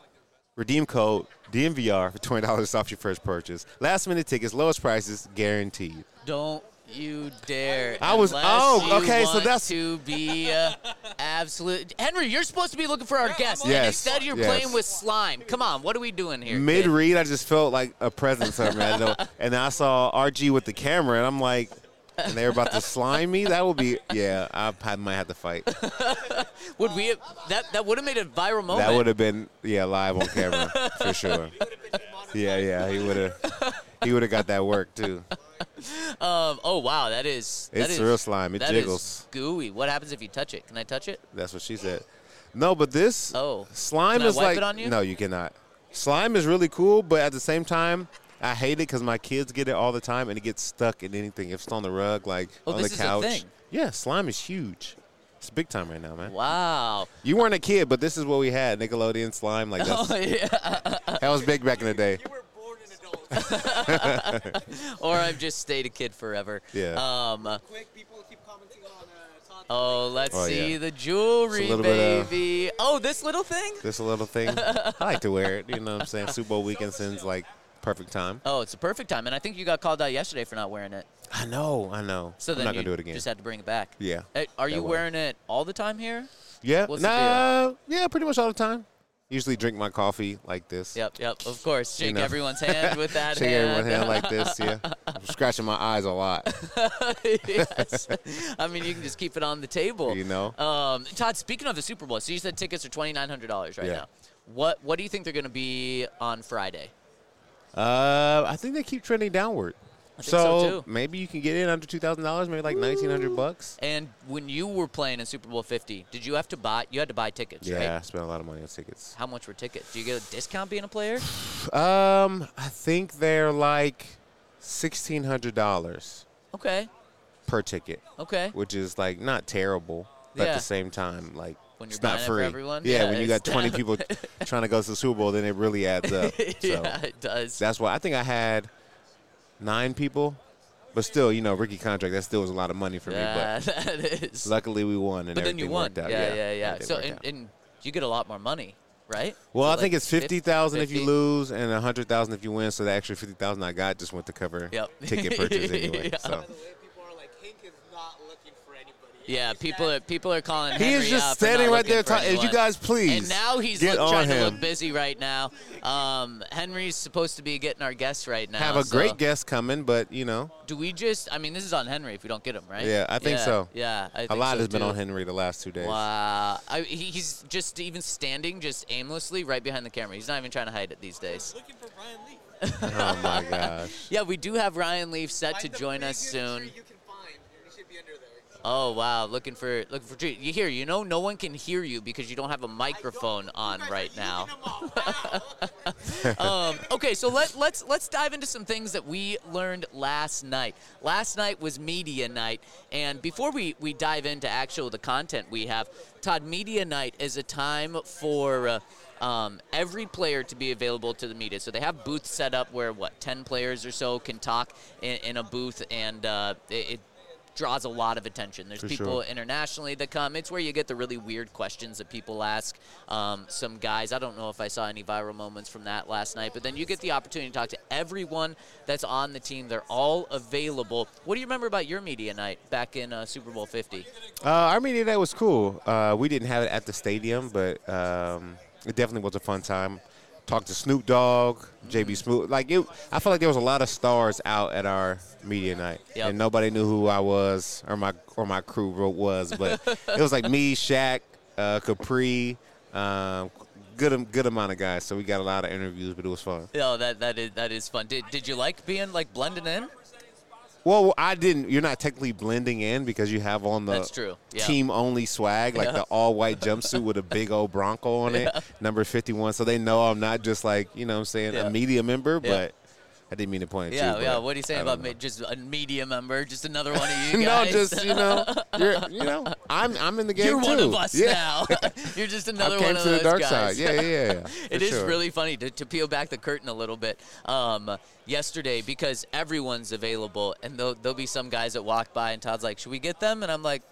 redeem code D N V R for twenty dollars off your first purchase. Last minute tickets, lowest prices, guaranteed. Don't you dare. I was- unless oh, you okay, so want that's- to be uh, absolute. Henry, you're supposed to be looking for our guests. and Yes, Instead, you're yes. playing with slime. Come on, what are we doing here? Mid kid? read, I just felt like a presence of man. And then I saw R G with the camera, and I'm like, and they were about to slime me. That would be, yeah, I, I might have to fight. Would we have, that that would have made a viral moment. That would have been, yeah, live on camera for sure. Yeah, yeah, he would have, he would have got that work too. Um, oh wow, that is that It's is- real slime. It that is jiggles. gooey. What happens if you touch it? Can I touch it? That's what she said. No, but this Oh. slime Can I is wipe like it on you? no, you cannot. Slime is really cool, but at the same time, I hate it because my kids get it all the time, and it gets stuck in anything. If it's on the rug, like Oh, on this the is a couch. thing. Yeah, slime is huge. It's big time right now, man. Wow. You weren't a kid, but this is what we had: Nickelodeon slime. Like that's, Oh yeah. that was big back in the day. You were born an adult. Or I've just stayed a kid forever. Yeah. Um. Quick, people keep commenting on uh, Todd. Oh, let's Oh, see yeah. the jewelry, It's a little bit of- baby. Oh, this little thing? Just a little thing. I like to wear it. You know what I'm saying? Super Bowl weekend sends like perfect time. Oh, it's a perfect time. And I think you got called out yesterday for not wearing it. I know. I know. So I'm then not you gonna do it again. just had to bring it back. Yeah. Hey, are that you way. wearing it all the time here? Yeah. What's the nah. Yeah, pretty much all the time. Usually drink my coffee like this. Yep, yep, of course. Shake know. everyone's hand with that Shake hand. everyone's hand like this. Yeah. I'm scratching my eyes a lot. Yes. I mean, you can just keep it on the table. You know. Um, Todd, speaking of the Super Bowl, so you said tickets are twenty-nine hundred dollars right Yeah. now. What What do you think they're going to be on Friday? Uh, I think they keep trending downward. I think so, too. Maybe you can get in under two thousand dollars, maybe like nineteen hundred bucks. And when you were playing in Super Bowl fifty, did you have to buy? You had to buy tickets, Yeah, I right? spent a lot of money on tickets. How much were tickets? Do you get a discount being a player? Um, I think they're like sixteen hundred dollars Okay, per ticket, okay. which is like not terrible, but Yeah. at the same time, like When you're it's not buying it for free. everyone? Yeah, Yeah, when you it's- got twenty people trying to go to the Super Bowl, then it really adds up. So yeah, it does. that's why I think I had nine people, but still, you know, rookie contract. That still was a lot of money for yeah, me. But that is. luckily, we won, and But then you everything won. worked out. Yeah, yeah, yeah. everything So worked and, out. and you get a lot more money, right? Well, So I like think it's fifty thousand if you fifty? lose, and a hundred thousand if you win. So the extra fifty thousand I got just went to cover Yep. ticket purchase anyway. Yeah. So By the way, people are like, Hank is not looking for any Yeah, people are people are calling. He Henry is just out for standing not right looking there for talking. anyone. You guys, please. And now he's get look, on trying him. to look busy right now. Um, Henry's supposed to be getting our guest right now. Have a so great guest coming, but you know, Do we just? I mean, this is on Henry if we don't get him right. Yeah, I think yeah, so. Yeah, I think a lot so has been too. on Henry the last two days. Wow, I, he, he's just even standing, just aimlessly right behind the camera. He's not even trying to hide it these days. Looking for Ryan Leaf. Oh my gosh. Yeah, we do have Ryan Leaf set to Find the join us biggest soon. tree you can find, and he should be under there. Oh wow, looking for looking for tree. You hear? You know, no one can hear you because you don't have a microphone on right now. um, okay, so let let's let's dive into some things that we learned last night. Last night was media night, and before we we dive into actual the content we have, Todd, media night is a time for. Uh, Um, every player to be available to the media. So they have booths set up where, what, ten players or so can talk in, in a booth, and uh, it, it draws a lot of attention. There's For people sure. internationally that come. It's where you get the really weird questions that people ask. Um, some guys, I don't know if I saw any viral moments from that last night, but then you get the opportunity to talk to everyone that's on the team. They're all available. What do you remember about your media night back in uh, Super Bowl fifty? Uh, our media day was cool. Uh, we didn't have it at the stadium, but um, it definitely was a fun time. Talked to Snoop Dogg, J B Smoot. Like it, I felt like there was a lot of stars out at our media night, Yep. and nobody knew who I was or my or my crew was. But it was like me, Shaq, uh, Capri, um, good good amount of guys. So we got a lot of interviews, but it was fun. Oh, that that is that is fun. Did did you like being like blending in? Well, I didn't. You're not technically blending in because you have on the That's true. Yeah. team-only swag, like Yeah. the all-white jumpsuit with a big old Bronco on it, number fifty-one. So they know I'm not just like, you know what I'm saying, Yeah. a media member, Yeah. but I didn't mean to point at Yeah, you. yeah. but What are you saying I about don't me, just a media member, just another one of you know. guys? No, just, you know, you're, you know, I'm I'm in the game You're too. one of us yeah. now. You're just another I came one of to those the dark guys. side. Yeah, yeah, yeah. It for is sure. really funny to, to peel back the curtain a little bit um, yesterday because everyone's available, and there'll, there'll be some guys that walk by, and Todd's like, should we get them? And I'm like,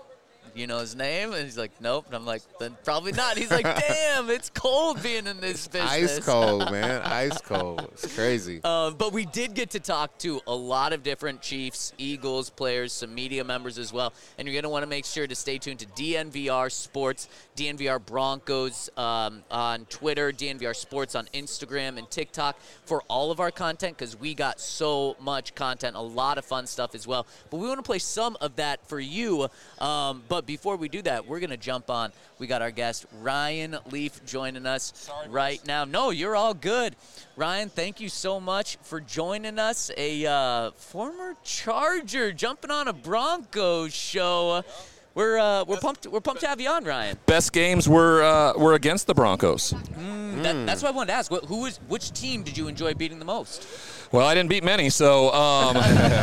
you know his name? And he's like, nope. And I'm like, then probably not. He's like, damn, it's cold being in this business. Ice cold, man. Ice cold. It's crazy. Uh, but we did get to talk to a lot of different Chiefs, Eagles players, some media members as well. And you're going to want to make sure to stay tuned to D N V R Sports, D N V R Broncos um, on Twitter, D N V R Sports on Instagram and TikTok for all of our content because we got so much content, a lot of fun stuff as well. But we want to play some of that for you. Um, but before we do that, we're going to jump on. We got our guest, Ryan Leaf, joining us right now. No, you're all good. Ryan, thank you so much for joining us. A uh, former Charger jumping on a Broncos show. We're uh, we're pumped. We're pumped to have you on, Ryan. Best games were uh, were against the Broncos. That, that's why I wanted to ask. Wh- Who was which team did you enjoy beating the most? Well, I didn't beat many, so um,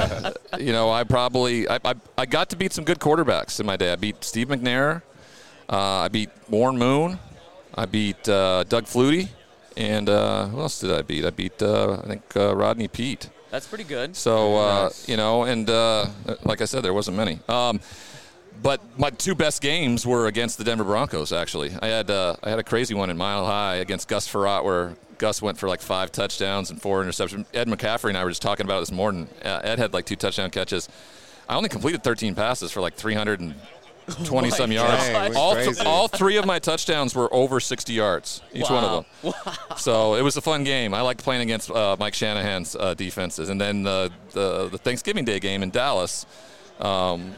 you know I probably I, I I got to beat some good quarterbacks in my day. I beat Steve McNair, uh, I beat Warren Moon, I beat uh, Doug Flutie, and uh, who else did I beat? I beat uh, I think uh, Rodney Peete. That's pretty good. So uh, Nice. you know, and uh, like I said, there wasn't many. Um, But my two best games were against the Denver Broncos. Actually, I had uh, I had a crazy one in Mile High against Gus Frerotte, where Gus went for like five touchdowns and four interceptions. Ed McCaffrey and I were just talking about it this morning. Uh, Ed had like two touchdown catches. I only completed thirteen passes for like three hundred twenty some yards. Dang, went all, th- crazy. all three of my touchdowns were over sixty yards, each one of them. So it was a fun game. I liked playing against uh, Mike Shanahan's uh, defenses. And then the, the the Thanksgiving Day game in Dallas. Um,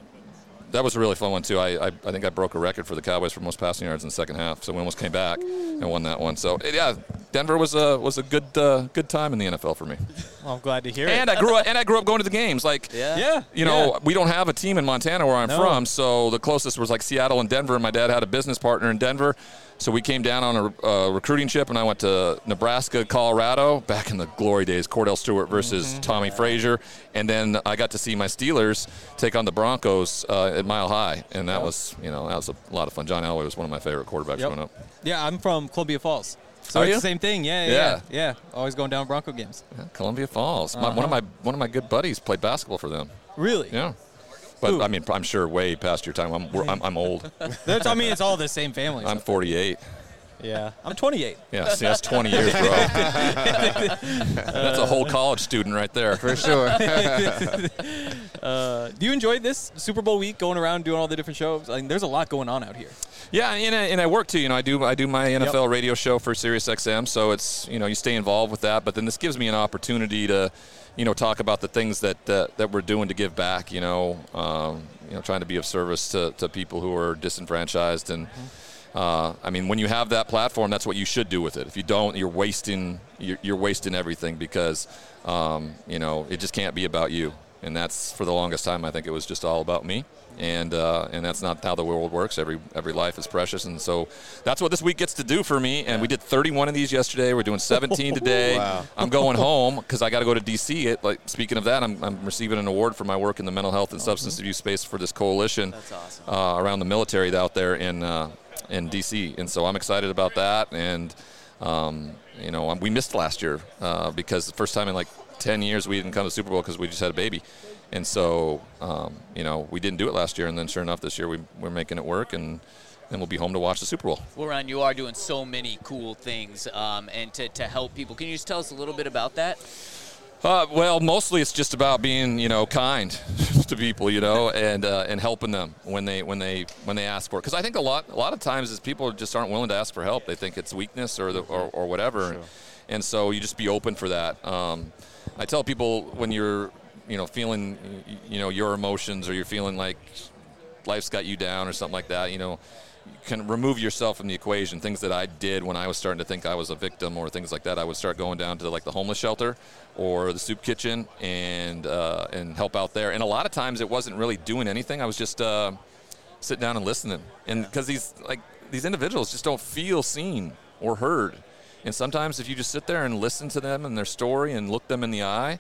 That was a really fun one, too. I, I I think I broke a record for the Cowboys for most passing yards in the second half, so we almost came back and won that one. So, yeah, Denver was a was a good uh, good time in the N F L for me. Well, I'm glad to hear And it. I grew up and I grew up going to the games. Like, Yeah. Yeah. you know, yeah. we don't have a team in Montana where I'm No. from, so the closest was like Seattle and Denver. And my dad had a business partner in Denver, so we came down on a uh, recruiting trip, and I went to Nebraska, Colorado, back in the glory days, Cordell Stewart versus Mm-hmm. Tommy Frazier, and then I got to see my Steelers take on the Broncos uh, at Mile High, and that was, you know, that was a lot of fun. John Elway was one of my favorite quarterbacks Yep. growing up. Yeah, I'm from Columbia Falls. So Are it's you? the same thing. Yeah, yeah, Yeah. yeah. Yeah. Always going down Bronco games. Yeah, Columbia Falls. My, one of Uh-huh. my one of my good buddies played basketball for them. Really? Yeah. But Who? I mean, I'm sure way past your time. I'm we're, I'm, I'm old. That's, I mean, it's all the same family. I'm so. forty-eight. Yeah, I'm twenty-eight. Yeah, see, that's twenty years, bro. That's a whole college student right there. For sure. uh, do you enjoy this Super Bowl week, going around doing all the different shows? I mean, there's a lot going on out here. Yeah, and I, and I work too. You know, I do I do my N F L Yep. radio show for Sirius X M, so it's, you know, you stay involved with that. But then this gives me an opportunity to, you know, talk about the things that uh, that we're doing to give back. You know, um, you know, trying to be of service to, to people who are disenfranchised. And uh, I mean, when you have that platform, that's what you should do with it. If you don't, you're wasting you're, you're wasting everything, because um, you know, it just can't be about you. And that's, for the longest time, I think it was just all about me. And uh, and that's not how the world works. Every every life is precious, and so that's what this week gets to do for me. And we did thirty-one of these yesterday. We're doing seventeen today. Wow. I'm going home because I got to go to D C. It, like, speaking of that, I'm, I'm receiving an award for my work in the mental health and substance abuse space for this coalition. That's awesome. uh, around the military out there in uh, in D C. And so I'm excited about that. And um, you know, we missed last year uh, because the first time in like ten years we didn't come to the Super Bowl because we just had a baby. And so, um, you know, we didn't do it last year, and then sure enough, this year we, we're making it work, and then we'll be home to watch the Super Bowl. Well, Ron, you are doing so many cool things um, and to, to help people. Can you just tell us a little bit about that? Uh, well, mostly it's just about being, you know, kind to people, you know, and uh, and helping them when they when they when they ask for it. Because I think a lot a lot of times is people just aren't willing to ask for help. They think it's weakness or the, or, or whatever, Sure. and so you just be open for that. Um, I tell people when you're, you know, feeling, you know, your emotions, or you're feeling like life's got you down or something like that, you know, you can remove yourself from the equation. Things that I did when I was starting to think I was a victim or things like that, I would start going down to like the homeless shelter or the soup kitchen and uh, and help out there. And a lot of times it wasn't really doing anything. I was just uh, sitting down and listening. And because these like these individuals just don't feel seen or heard. And sometimes if you just sit there and listen to them and their story and look them in the eye,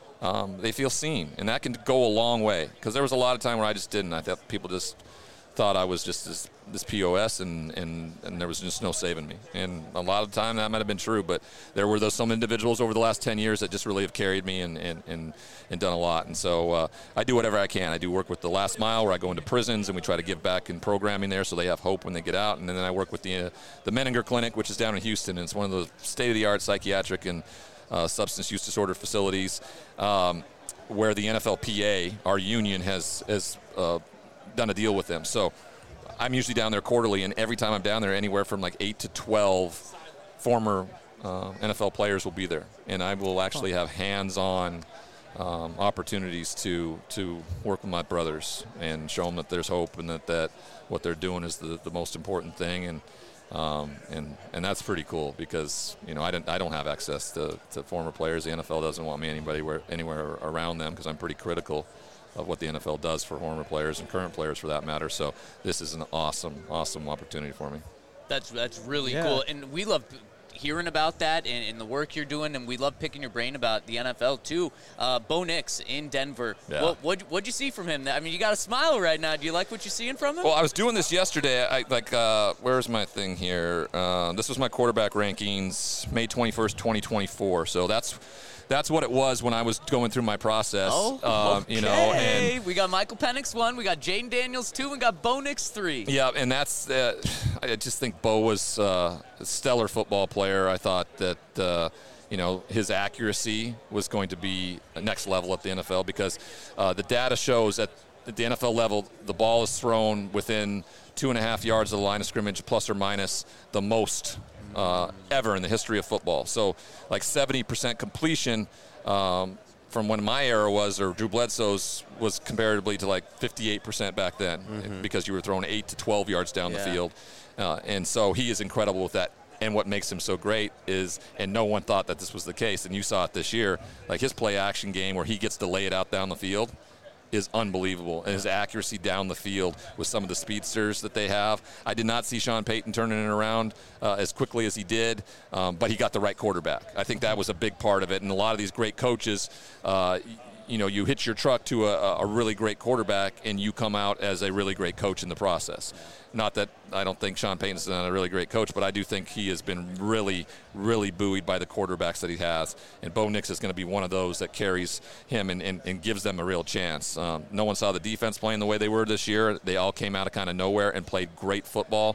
Um, they feel seen, and that can go a long way. Because there was a lot of time where I just didn't. I thought people just thought I was just this, this P O S, and, and, and there was just no saving me. And a lot of the time that might have been true, but there were those some individuals over the last ten years that just really have carried me and, and, and, and done a lot. And so uh, I do whatever I can. I do work with the Last Mile, where I go into prisons and we try to give back in programming there so they have hope when they get out. And then I work with the uh, the Menninger Clinic, which is down in Houston, and it's one of those state-of-the-art psychiatric and uh, substance use disorder facilities um, where the N F L P A, our union, has, has uh, done a deal with them. So I'm usually down there quarterly, and every time I'm down there, anywhere from like eight to twelve former uh, N F L players will be there, and I will actually have hands-on um, opportunities to to work with my brothers and show them that there's hope and that, that what they're doing is the, the most important thing. And um, and and that's pretty cool because, you know, I don't I don't have access to, to former players. The N F L doesn't want me anybody where, anywhere around them because I'm pretty critical of what the N F L does for former players and current players for that matter. So this is an awesome, awesome opportunity for me. That's that's really Yeah. cool, and we love hearing about that and, and the work you're doing, and we love picking your brain about the N F L too. Uh, Bo Nix in Denver. Yeah. What what what'd you see from him? I mean, you got a smile right now. Do you like what you're seeing from him? Well, I was doing this yesterday. I like, uh, where's my thing here? Uh, this was my quarterback rankings, May twenty-first, twenty twenty-four. So that's that's what it was when I was going through my process. Oh, uh, okay. You know, and we got Michael Penix one, we got Jaden Daniels two, and we got Bo Nix three. yeah, and that's. Uh, I just think Bo was uh, a stellar football player. I thought that. Uh, You know, his accuracy was going to be next level at the N F L because uh, the data shows that at the N F L level, the ball is thrown within two and a half yards of the line of scrimmage, plus or minus the most uh, ever in the history of football. So, like seventy percent completion um, from when my era was, or Drew Bledsoe's, was comparatively to like fifty-eight percent back then Mm-hmm. because you were throwing eight to twelve yards down Yeah. the field. Uh, and so he is incredible with that. And what makes him so great is, and no one thought that this was the case, and you saw it this year, like his play action game where he gets to lay it out down the field is unbelievable. And his accuracy down the field with some of the speedsters that they have. I did not see Sean Payton turning it around uh, as quickly as he did, um, but he got the right quarterback. I think that was a big part of it. And a lot of these great coaches, uh, you know, you hitch your truck to a, a really great quarterback and you come out as a really great coach in the process. Not that I don't think Sean Payton's not a really great coach, but I do think he has been really, really buoyed by the quarterbacks that he has. And Bo Nix is going to be one of those that carries him and, and, and gives them a real chance. Um, no one saw the defense playing the way they were this year. They all came out of kind of nowhere and played great football.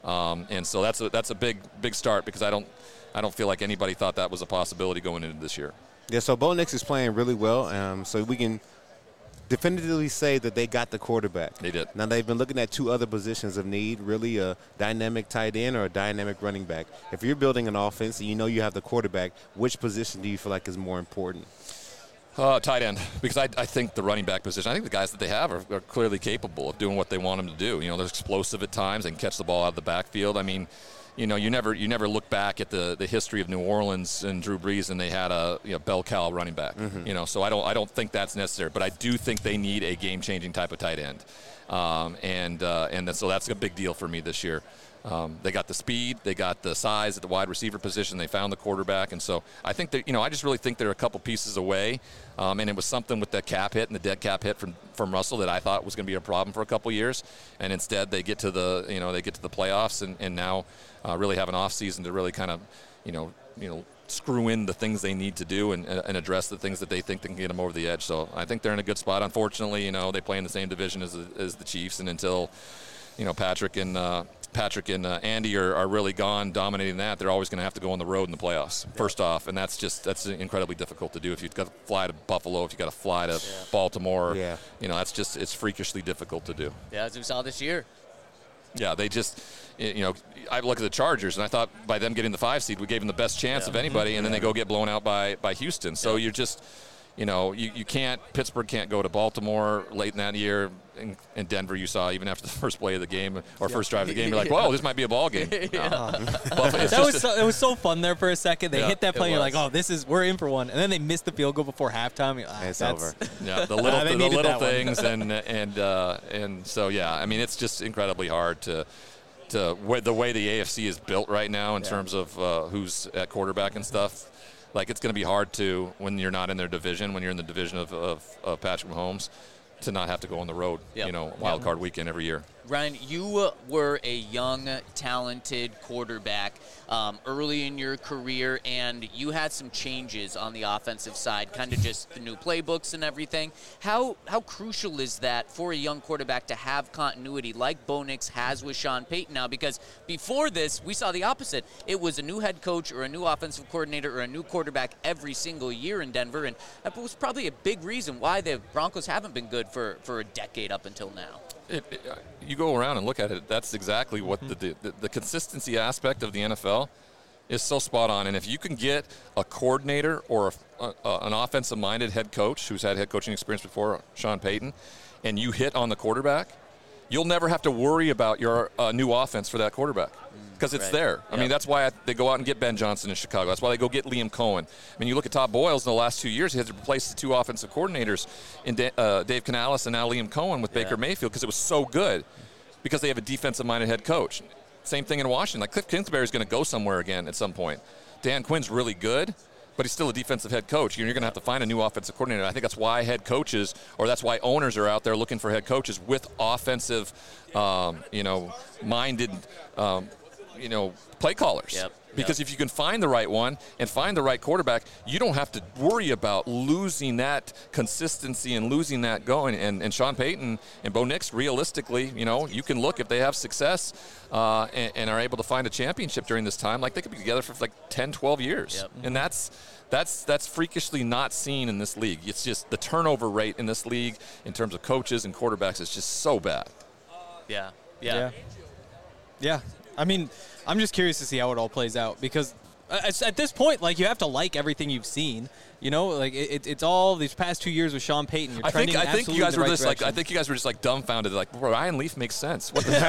Um, and so that's a, that's a big big start because I don't I don't feel like anybody thought that was a possibility going into this year. Yeah, so Bo Nix is playing really well, um, so we can definitively say that they got the quarterback. They did. Now they've been looking at two other positions of need, really a dynamic tight end or a dynamic running back. If you're building an offense and you know you have the quarterback, which position do you feel like is more important? Uh, tight end, because I, I think the running back position, I think the guys that they have are, are clearly capable of doing what they want them to do. You know, they're explosive at times. They can catch the ball out of the backfield. I mean, you know, you never you never look back at the, the history of New Orleans and Drew Brees and they had a you know, bell cow running back. Mm-hmm. You know, so I don't I don't think that's necessary, but I do think they need a game changing type of tight end, um, and uh, and then, so that's a big deal for me this year. Um, they got the speed, they got the size at the wide receiver position, they found the quarterback, and so I think that, you know, I just really think they're a couple pieces away, um, and it was something with the cap hit and the dead cap hit from, from Russell that I thought was going to be a problem for a couple years, and instead they get to the, you know, they get to the playoffs and, and now uh, really have an off season to really kind of, you know, you know, screw in the things they need to do and, and address the things that they think they can get them over the edge. So I think they're in a good spot. Unfortunately, you know, they play in the same division as the, as the Chiefs, and until, you know, Patrick and uh, Patrick and uh, Andy are, are really gone dominating that, they're always going to have to go on the road in the playoffs, yeah. first off, and that's just that's incredibly difficult to do. If you've got to fly to Buffalo, if you've got to fly to yeah. Baltimore, yeah. you know, that's just, it's freakishly difficult to do. Yeah, as we saw this year. Yeah, they just, you know, I look at the Chargers, and I thought by them getting the five seed, we gave them the best chance yeah. of anybody, and then they go get blown out by, by Houston. So yeah. you're just, you know, you, you can't, Pittsburgh can't go to Baltimore late in that year. In, in Denver, you saw even after the first play of the game or yeah. first drive of the game, you're like, "Whoa, this might be a ball game." yeah. uh, that was so, it was so fun there for a second. They yeah, hit that play, and you're like, "Oh, this is we're in for one." And then they missed the field goal before halftime. Like, ah, it's that's, over. Yeah, the little, the, the little things, and and uh, and so yeah, I mean, it's just incredibly hard to. To, the way the A F C is built right now in yeah. terms of uh, who's at quarterback and stuff, like it's going to be hard to, when you're not in their division, when you're in the division of, of, of Patrick Mahomes, to not have to go on the road, yep. you know, wild yep. card weekend every year. Ryan, you uh, were a young, talented quarterback um, early in your career, and you had some changes on the offensive side, kind of just the new playbooks and everything. How how crucial is that for a young quarterback to have continuity like Bo Nix has with Sean Payton now? Because before this, we saw the opposite. It was a new head coach or a new offensive coordinator or a new quarterback every single year in Denver, and that was probably a big reason why the Broncos haven't been good for, for a decade up until now. It, it, you go around and look at it, that's exactly what mm-hmm. the, the the consistency aspect of the N F L is so spot on. And if you can get a coordinator or a, a, an offensive-minded head coach who's had head coaching experience before, Sean Payton, and you hit on the quarterback, you'll never have to worry about your uh, new offense for that quarterback. Because it's right. there. I yep. mean, that's why I, they go out and get Ben Johnson in Chicago. That's why they go get Liam Cohen. I mean, you look at Todd Boyles in the last two years, he had to replace the two offensive coordinators in Da- uh, Dave Canales and now Liam Cohen with yeah. Baker Mayfield because it was so good because they have a defensive-minded head coach. Same thing in Washington. Like Cliff Kingsbury is going to go somewhere again at some point. Dan Quinn's really good, but he's still a defensive head coach. You're going to have to find a new offensive coordinator. I think that's why head coaches, or that's why owners are out there looking for head coaches with offensive, um, you know, minded um, you know, play callers. Yep. Because yep. if you can find the right one and find the right quarterback, you don't have to worry about losing that consistency and losing that going. And, and Sean Payton and Bo Nix, realistically, you know, you can look if they have success uh, and, and are able to find a championship during this time, like they could be together for like ten, twelve years. Yep. And that's that's that's freakishly not seen in this league. It's just the turnover rate in this league in terms of coaches and quarterbacks is just so bad. Yeah. Yeah. Yeah. yeah. I mean, I'm just curious to see how it all plays out because at this point, like, you have to like everything you've seen. You know, like it, it's all these past two years with Sean Payton. You're I think I think you guys were right just direction. like I think you guys were just like dumbfounded. Like Ryan Leaf makes sense. What the no,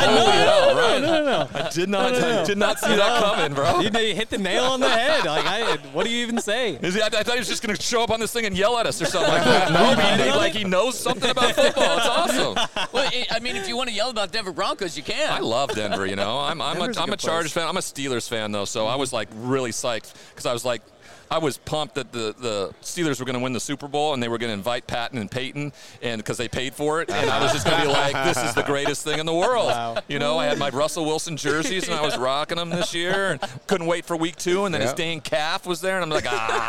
no, no, no, no, I did not no, no, no. I did not see that coming, bro. You, you hit the nail on the head. Like, I, what do you even say? Is he, I, I thought he was just going to show up on this thing and yell at us or something. Like that. No, man, he, like he knows something about football. It's awesome. Well, I mean, if you want to yell about Denver Broncos, you can. I love Denver. You know, I'm I'm Denver's a, I'm a a Chargers place. fan. I'm a Steelers fan though, so I was like really psyched because I was like. I was pumped that the, the Steelers were going to win the Super Bowl and they were going to invite Patton and Peyton, and because they paid for it, and I was just going to be like, this is the greatest thing in the world. Wow. You know, I had my Russell Wilson jerseys and I was rocking them this year, and couldn't wait for week two. And then Yep. his Dane Calf was there, and I'm like,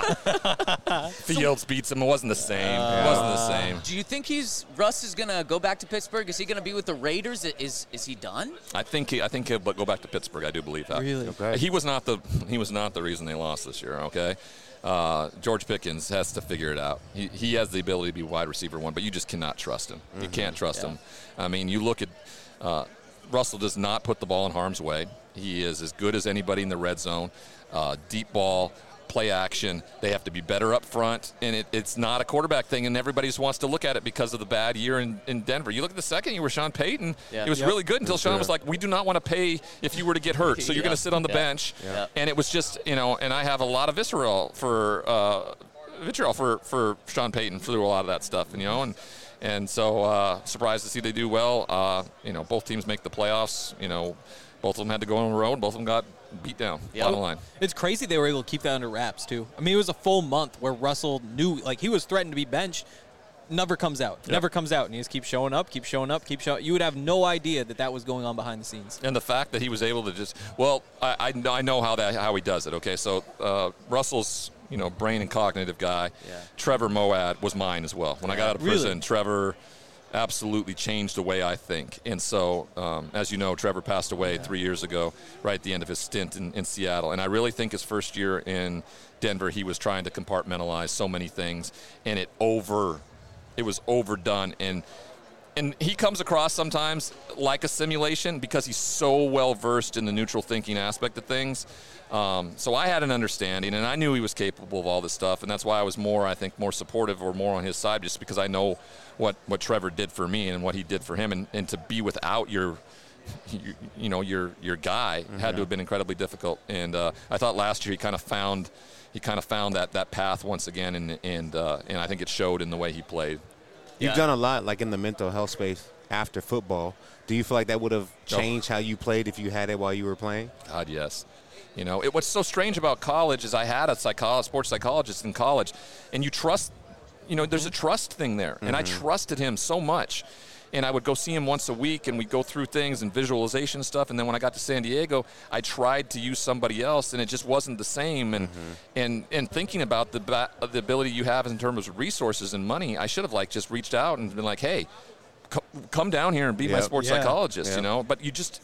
ah. Fields beats him. It wasn't the same. It wasn't the same. Do you think he's Russ is gonna go back to Pittsburgh? Is he gonna be with the Raiders? Is is he done? I think he, I think he'll go back to Pittsburgh. I do believe that. Really? Okay. He was not the he was not the reason they lost this year. Okay. Uh, George Pickens has to figure it out. He, he has the ability to be wide receiver one, but you just cannot trust him. Mm-hmm. You can't trust Yeah. him. I mean, you look at uh, Russell does not put the ball in harm's way. He is as good as anybody in the red zone. Uh, deep ball, play action. They have to be better up front, and it, it's not a quarterback thing, and everybody just wants to look at it because of the bad year in, in Denver. You look at the second year with Sean Payton, Yeah. it was Yep. really good until Sean was like, we do not want to pay if you were to get hurt, so you're Yeah. going to sit on the Yeah. bench. Yeah. And it was just, you know, and I have a lot of visceral for uh, vitriol for, for Sean Payton through a lot of that stuff, and, you know, and and so uh, surprised to see they do well. Uh, you know, both teams make the playoffs. You know, both of them had to go on the road. Both of them got beat down. Yeah. Bottom line. It's crazy they were able to keep that under wraps, too. I mean, it was a full month where Russell knew, like, he was threatened to be benched. Never comes out. Yep. Never comes out. And he just keeps showing up, keeps showing up, keeps showing You would have no idea that that was going on behind the scenes. And the fact that he was able to just, well, I, I, know, I know how that how he does it. Okay, so uh, Russell's, you know, brain and cognitive guy. Yeah. Trevor Moawad was mine as well. When I got out of Really? prison, Trevor absolutely changed the way I think. And so, um, as you know, Trevor passed away three years ago, right at the end of his stint in, in Seattle. And I really think his first year in Denver, he was trying to compartmentalize so many things, and it over, it was overdone. And and he comes across sometimes like a simulation because he's so well versed in the neutral thinking aspect of things. Um, so I had an understanding, and I knew he was capable of all this stuff, and that's why I was more, I think, more supportive or more on his side, just because I know what, what Trevor did for me and what he did for him, and, and to be without your, you, you know, your your guy mm-hmm. had to have been incredibly difficult. And uh, I thought last year he kind of found he kind of found that, that path once again, and and uh, and I think it showed in the way he played. You've Yeah. done a lot, like in the mental health space after football. Do you feel like that would have changed how you played if you had it while you were playing? God, yes. You know, it, what's so strange about college is I had a psycholo- sports psychologist in college, and you trust, you know, there's a trust thing there. And I trusted him so much. And I would go see him once a week, and we'd go through things and visualization stuff. And then when I got to San Diego, I tried to use somebody else, and it just wasn't the same. And and, and thinking about the ba- the ability you have in terms of resources and money, I should have, like, just reached out and been like, hey, co- come down here and be my Yep. sports Yeah. psychologist, Yep. you know? But you just...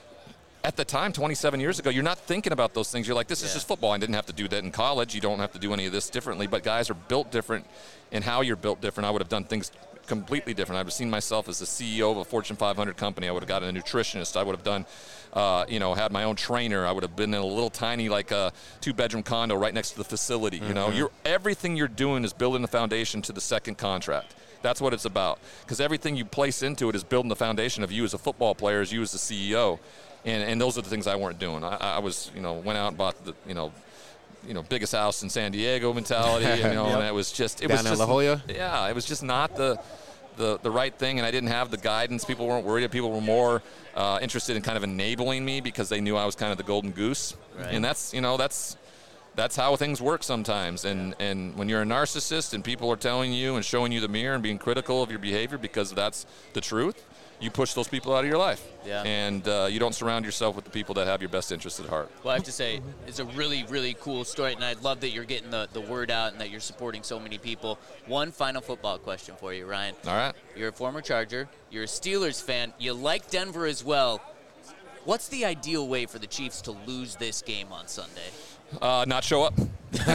At the time, twenty-seven years ago, you're not thinking about those things. You're like, this is Yeah. just football. I didn't have to do that in college. You don't have to do any of this differently. But guys are built different, and how you're built different. I would have done things completely different. I would have seen myself as the C E O of a Fortune five hundred company. I would have gotten a nutritionist. I would have done, uh, you know, had my own trainer. I would have been in a little tiny, like, a two-bedroom condo right next to the facility. You know, you're everything you're doing is building the foundation to the second contract. That's what it's about. Because everything you place into it is building the foundation of you as a football player, as you as the C E O. And, and those are the things I weren't doing. I, I was, you know, went out and bought the, you know, you know, biggest house in San Diego mentality, you know, Yep. and it was just, it Down was in just, La Jolla? yeah, it was just not the, the, the right thing, and I didn't have the guidance. People weren't worried. People were more uh, interested in kind of enabling me because they knew I was kind of the golden goose, Right. and that's, you know, that's. That's how things work sometimes, and, and when you're a narcissist and people are telling you and showing you the mirror and being critical of your behavior because that's the truth, you push those people out of your life. Yeah. And uh, you don't surround yourself with the people that have your best interest at heart. Well, I have to say, it's a really, really cool story, and I love that you're getting the, the word out and that you're supporting so many people. One final football question for you, Ryan. All right. You're a former Charger. You're a Steelers fan. You like Denver as well. What's the ideal way for the Chiefs to lose this game on Sunday? Uh, not show up.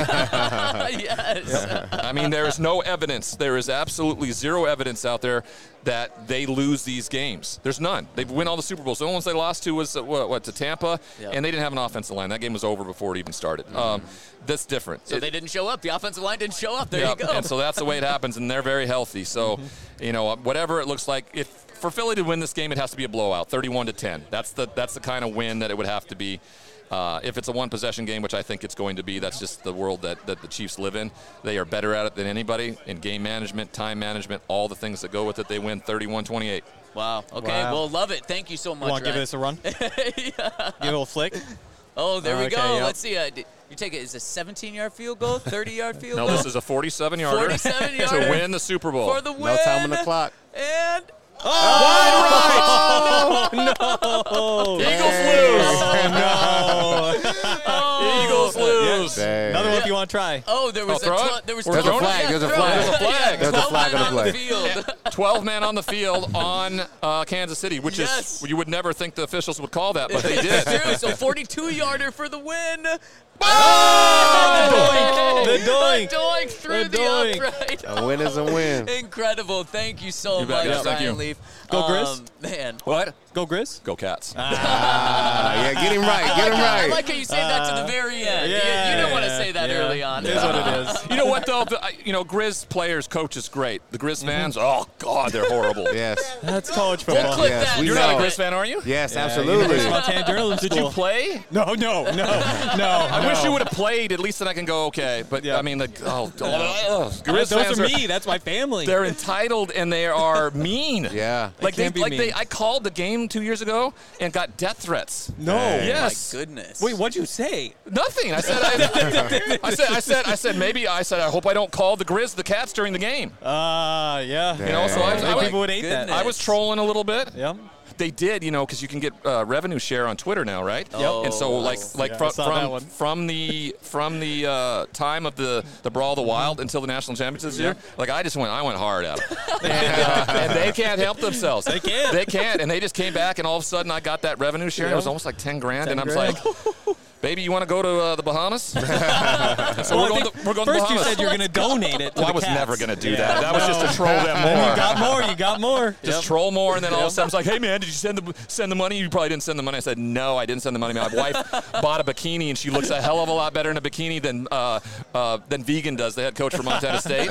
Yes. I mean, there is no evidence. There is absolutely zero evidence out there that they lose these games. There's none. They win all the Super Bowls. The only ones they lost to was uh, what, what to Tampa, Yep. and they didn't have an offensive line. That game was over before it even started. Mm-hmm. Um, that's different. So It- they didn't show up. The offensive line didn't show up. There Yep, you go. And so that's the way it happens, and they're very healthy. So, you know, whatever it looks like, if for Philly to win this game, it has to be a blowout, thirty-one to ten. That's the that's the kind of win that it would have to be. Uh, if it's a one-possession game, which I think it's going to be, that's just the world that, that the Chiefs live in. They are better at it than anybody in game management, time management, all the things that go with it. They win thirty-one twenty-eight. Wow. Okay. Wow. Well, love it. Thank you so much. Want to give Ryan. this a run? Give it a little flick? Oh, there we Okay, go. yep. Let's see. Uh, d- You take it as a seventeen-yard field goal, thirty-yard field No, goal. this is a forty-seven yarder forty-seven yarder to win the Super Bowl. for the win. No time on the clock. And Oh, no. Eagles lose. oh, Eagles lose. Dang. Another one if you want to try. Oh, there was Oh, a throw it? tw- there was There's a twelve flag, yeah, there's a throw flag. it. There's a flag. Yeah, There's a twelve flag men on the on the play. field. twelve men on the field on uh, Kansas City, which Yes. is, you would never think the officials would call that, but they did. It's true. So forty-two-yarder for the win. Oh! The doink. The doink through The the, doink. upright. A win is a win. Incredible. Thank you so You much, bet, guys. Thank Ryan you. Leaf. Go, Grizz. Um, man. What? Go Grizz. Go Cats. Ah, yeah, get him right. I Get like, him how, I right. like how you saved that to the very end. You- you, yeah, didn't want to yeah, say that yeah. early on. It is what it is. You know what, though? The, I- you know, Grizz players, coaches, great. The Grizz fans, oh, God, they're horrible. Yes. That's college We'll football. clip Yes, that. we You're know. not a Grizz fan, are you? Yes, Yeah, absolutely. University of Montana Journalism Did you School. play? No, no, no, no. I wish you would have played. At least then I can go, okay. But, Yeah. I mean, like, oh, oh, Grizz Those fans are me. That's my family. They're entitled and they are mean. Yeah. Like they, can't be like they, mean. I called the game two years ago and got death threats. no. Hey. Yes. My goodness. Wait, what'd you say? Nothing. I said, I, I said, I said, I said, maybe. I said, I hope I don't call the Grizz the Cats during the game. Ah, uh, yeah. You know, so I was, I was, People would hate Goodness. that. I was trolling a little bit. Yeah. They did, you know, because you can get uh, revenue share on Twitter now, right? Yep. And so, like, like Yeah, I from saw that from, one. from the from the uh, time of the, the Brawl of the Wild until the national championship this year, like I just went, I went hard at them, and, uh, and they can't help themselves. They can't. They can't, and they just came back, and all of a sudden, I got that revenue share. And it was almost like ten grand, and I was grand. like, baby, you want to go to uh, the Bahamas? so Well, we're, I going think to, we're going to first Bahamas. you said you were going to donate it to well, I the was Cats. never going to do Yeah. that. That was just to troll them more. You got more. You got more. Just Yep. troll more, and then all of a sudden, it's like, "Hey, man, did you send the send the money? You probably didn't send the money." I said, "No, I didn't send the money. My wife bought a bikini, and she looks a hell of a lot better in a bikini than uh, uh, than Vegan does, the head coach for Montana State."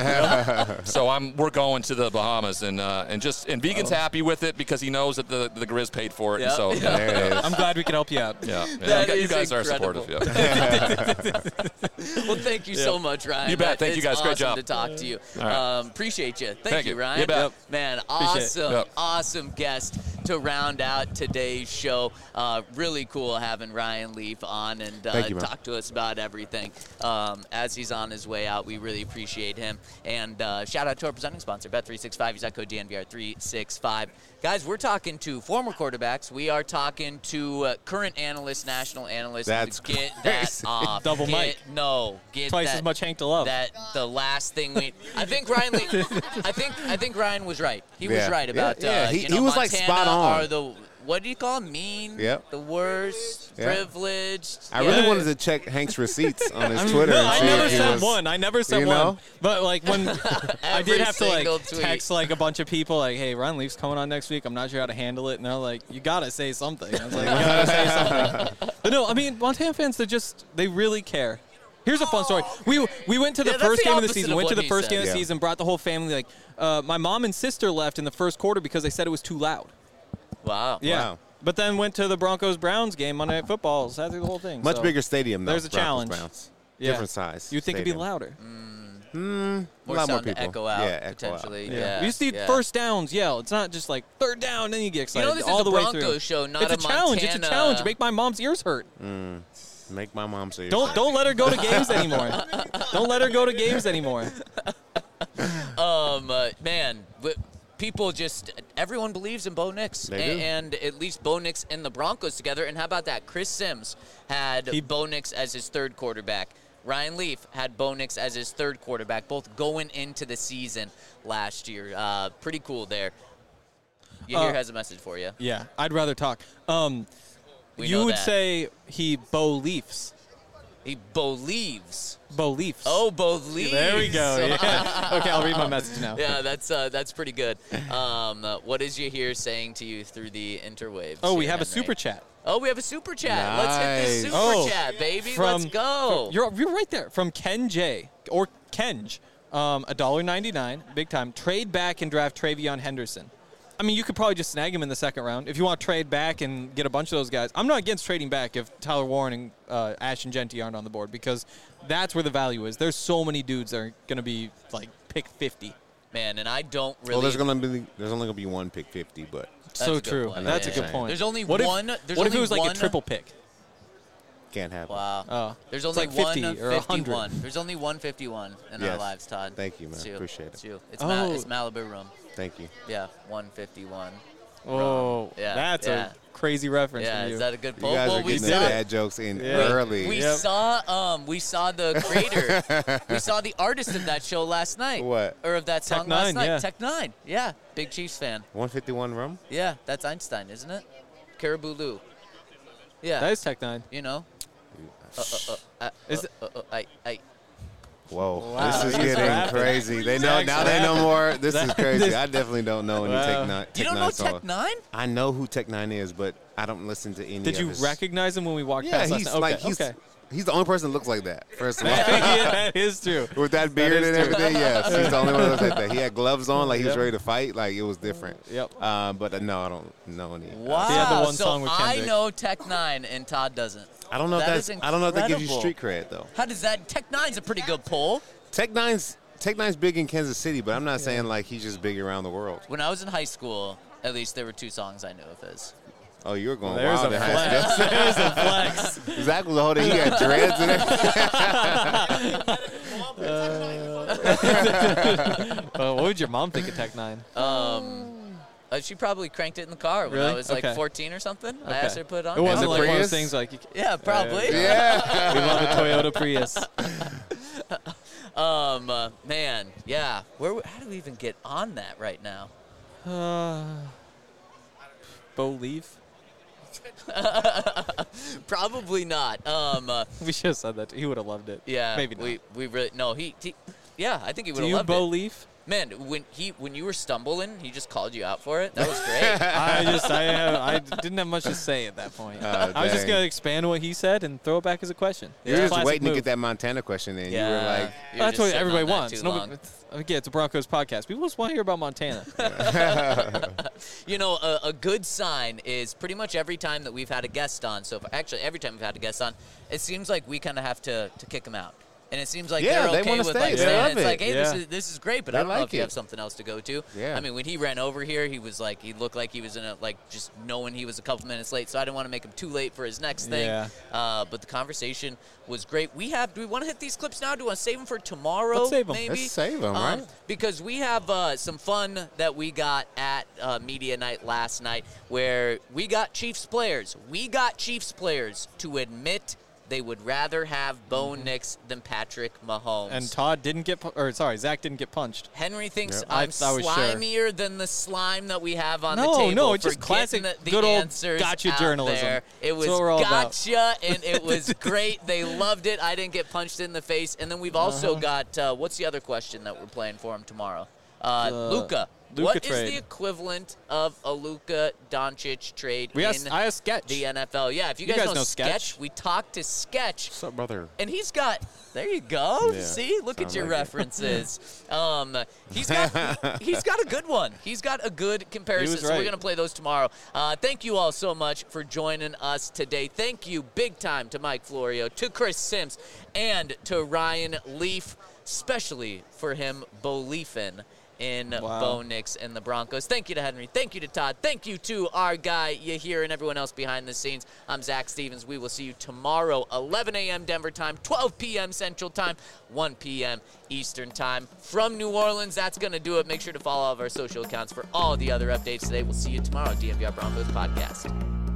So I'm we're going to the Bahamas, and uh, and just and Vegan's happy with it because he knows that the the Grizz paid for it, and Yep. so Yep. yeah, There it is. I'm glad we could help you out. yeah, yeah. That You, gu- you is guys incredible. are supportive. Yeah. Well, thank you so much, Ryan. You bet. That- Thank you, it's guys. Great awesome job. to talk to you. All right. Um, appreciate you. Thank, Thank you, you. Ryan. You bet. Yep. Man, Appreciate it. awesome, Yep. awesome guest to round out today's show. Uh, really cool having Ryan Leaf on and uh, Thank you, man. talk to us about everything. Um, as he's on his way out, we really appreciate him. And uh, shout out to our presenting sponsor, Bet three sixty-five. Use that code D N V R three sixty-five. Guys, we're talking to former quarterbacks. We are talking to uh, current analysts, national analysts. That's get that crazy. off. Double Get- mic. No, get Twice that, as much Hank to love. That the last thing we. I think Ryan. Lee, I think I think Ryan was right. He was Yeah. right about. Yeah, yeah. Uh, He- you know, he was, like, Montana spot on. Are the what do you call them? Mean? Yep. The worst, Yeah. privileged. I yeah. really wanted to check Hank's receipts on his Twitter. No, and I see never if he sent was- one. I never sent you one. know? But like when I Every did have to like single tweet. text like a bunch of people like, "Hey, Ryan Leaf's coming on next week. I'm not sure how to handle it." And they're like, "You gotta say something." I was like, "You gotta say something." But no, I mean Montana fans, they just they really care. Here's a fun story. We we went to the Yeah, that's first the game of the opposite season. of Went to what the he first said. game of the Yeah. season. Brought the whole family. Like uh, my mom and sister left in the first quarter because they said it was too loud. Wow. Yeah. Wow. But then went to the Broncos Browns game Monday Night Football. Sat through the whole thing. Much so, bigger stadium, though. There's a Broncos challenge. Browns. Yeah. Different size. You'd think it'd be stadium. louder. Hmm. More a lot more sound to people. echo out Yeah, echo out. potentially. Yeah. Yeah. We just need yeah. first downs yell. It's not just like third down, then you get You excited know, this all is the a way Broncos through. show, not it's a, a challenge. It's a Montana- challenge. Make my mom's ears hurt. Make my mom say. Don't don't let her go to games anymore. Don't let her go to games anymore. Um, uh, man, w- people just everyone believes in Bo Nix, They A- do. and at least Bo Nix and the Broncos together. And how about that? Chris Sims had He- Bo Nix as his third quarterback. Ryan Leaf had Bo Nix as his third quarterback, both going into the season last year. Uh, pretty cool there. Yahir Uh, has a message for you. Yeah, I'd rather talk. Um, We you know would that. say he Bo Leafs. He believes. Bo Leafs. Oh, believes. there we go. Yeah. Okay, I'll read my message now. Yeah, that's uh, that's pretty good. Um, uh, what is Yahir saying to you through the interwaves? Oh, we here, have a Henry? super chat. Oh, we have a super chat. Let's hit this Nice. super Oh, chat, baby. From, Let's go. from- you're, you're right there. From Ken J. Or Kenj. Um, one dollar ninety-nine. Big time. Trade back and draft Travion Henderson. I mean, you could probably just snag him in the second round. If you want to trade back and get a bunch of those guys. I'm not against trading back if Tyler Warren and uh, Ashton Genty aren't on the board because that's where the value is. There's so many dudes that are going to be, like, pick fifty. Man, and I don't really. Well, there's gonna be there's only gonna be one pick fifty, but That's a So good true. point. That's Yeah. a good point. There's only what one- If, there's what if only it was like one- a triple pick? can't happen. Wow. Oh. There's It's only like fifty one or one hundred. fifty-one. There's only one fifty-one in our Yes. lives, Todd. Thank you, man. It's you. Appreciate It's it. you. It's, Oh. Ma- it's Malibu Room. Thank you. Yeah, one fifty-one. Oh, Yeah, that's yeah. a crazy reference Yeah, from you. is that a good You poll? guys well, are we getting saw, the dad jokes in Yeah. early. we Yep. saw um we saw the creator. We saw the artist of that show last night. What? Or of that Tech song last Nine, night. yeah. Tech Nine. Yeah. Big Chiefs fan. one fifty-one rum? Yeah, that's Einstein, isn't it? Caribou Lou. Yeah. That is Tech Nine. you know. Uh, uh, uh, uh, Is uh, uh, uh, I, I, Whoa, Wow, this is he's getting rapping. crazy. They know He's now. They know rapping. more. This is That- crazy. this- I definitely don't know any Wow. Tech Nine. you Tech don't Nine know song. Tech Nine? I know who Tech Nine is, but I don't listen to any. Did of you his- recognize him when we walked Yeah, past? he's last night? like okay, he's okay. he's the only person that looks like that. First of all, yeah, that is true. with that beard is and true. everything, yes, he's the only one that looks like that. He had gloves on, like he was Yep. ready to fight, like it was different. Yep. Um, but uh, no, I don't know any. Wow. He had the one so song with I Kendrick. know Tech Nine and Todd doesn't. I don't know if That that's. is I don't know if that gives you incredible. street cred though. How does that? Tech Nine's a pretty good poll. Tech Nine's Tech Nine's big in Kansas City, but I'm not saying like he's just big around the world. When I was in high school, at least there were two songs I knew of his. Oh, you were going There's wild a in high flex. school. There's a flex. Zach was holding. He had dreads and everything. Uh, what would your mom think of Tech Nine? Um, uh, she probably cranked it in the car when I Really? was like Okay. fourteen or something. I Okay. asked her to put it on. It wasn't the like one of Prius? those things like, you, Yeah, probably. yeah. we love a Toyota Prius. Um, uh, man, yeah. Where? How do we even get on that right now? Uh, Bo Leaf? Probably not. Um, uh, We should have said that. He would have loved it. yeah. Maybe not. We we really no. He, he yeah. I think he would Do have you loved Bo it. Leaf? Man, when he when you were stumbling, he just called you out for it. That was great. I just I have, I didn't have much to say at that point. Oh, I was just dang. gonna expand what he said and throw it back as a question. You were It's a just classic waiting move. to get that Montana question in. yeah. You were like, You were That's just what sitting everybody on that wants. too Nobody, long. it's- again, it's a Broncos podcast. People just want to hear about Montana. You know, a, a good sign is pretty much every time that we've had a guest on. So if, actually, every time we've had a guest on, it seems like we kind of have to, to kick them out. And it seems like Yeah, they're they okay wanna with stay. like They saying love it's it. like, hey, Yeah. this is this is great, but They I don't know like if you it. have something else to go to. Yeah. I mean, when he ran over here, he was like, he looked like he was in a like just knowing he was a couple minutes late. So I didn't want to make him too late for his next thing. Yeah. Uh, but the conversation was great. We have. Do we want to hit these clips now? Do we want to save them for tomorrow? Let's save 'em. Maybe. Let's save 'em, Um, right? Because we have uh, some fun that we got at uh, Media Night last night where we got Chiefs players. We got Chiefs players to admit they would rather have Bo Nix than Patrick Mahomes. And Todd didn't get, pu- or sorry, Zach didn't get punched. Henry thinks Yep. I- I'm I was sure. slimier than the slime that we have on No, the table. no, it's for just classic getting the, the good old answers gotcha out journalism. there. It That's was what we're all about. gotcha, and it was great. They loved it. I didn't get punched in the face. And then we've also Uh-huh. got, uh, what's the other question that we're playing for him tomorrow? Uh, The Luka. Luka What is trade. the equivalent of a Luka Doncic trade We in asked, I asked Sketch. the N F L? Yeah, if you, You guys, guys know, know Sketch, Sketch. we talked to Sketch. "What's up, brother?" And he's got, there you go. Yeah, See, look at sound your like it. references. um, he's got, he's got a good one. He's got a good comparison. was So we're right. gonna play those tomorrow. Uh, thank you all so much for joining us today. Thank you, big time, to Mike Florio, to Chris Sims, and to Ryan Leaf, especially for him beliefing in Wow. Bo Nix and the Broncos. Thank you to Henry. Thank you to Todd. Thank you to our guy Yahir and everyone else behind the scenes. I'm Zach Stevens. We will see you tomorrow, eleven a.m. Denver time, twelve p.m. Central time, one p.m. Eastern time from New Orleans. That's going to do it. Make sure to follow all of our social accounts for all the other updates today. We'll see you tomorrow, D N V R Broncos podcast.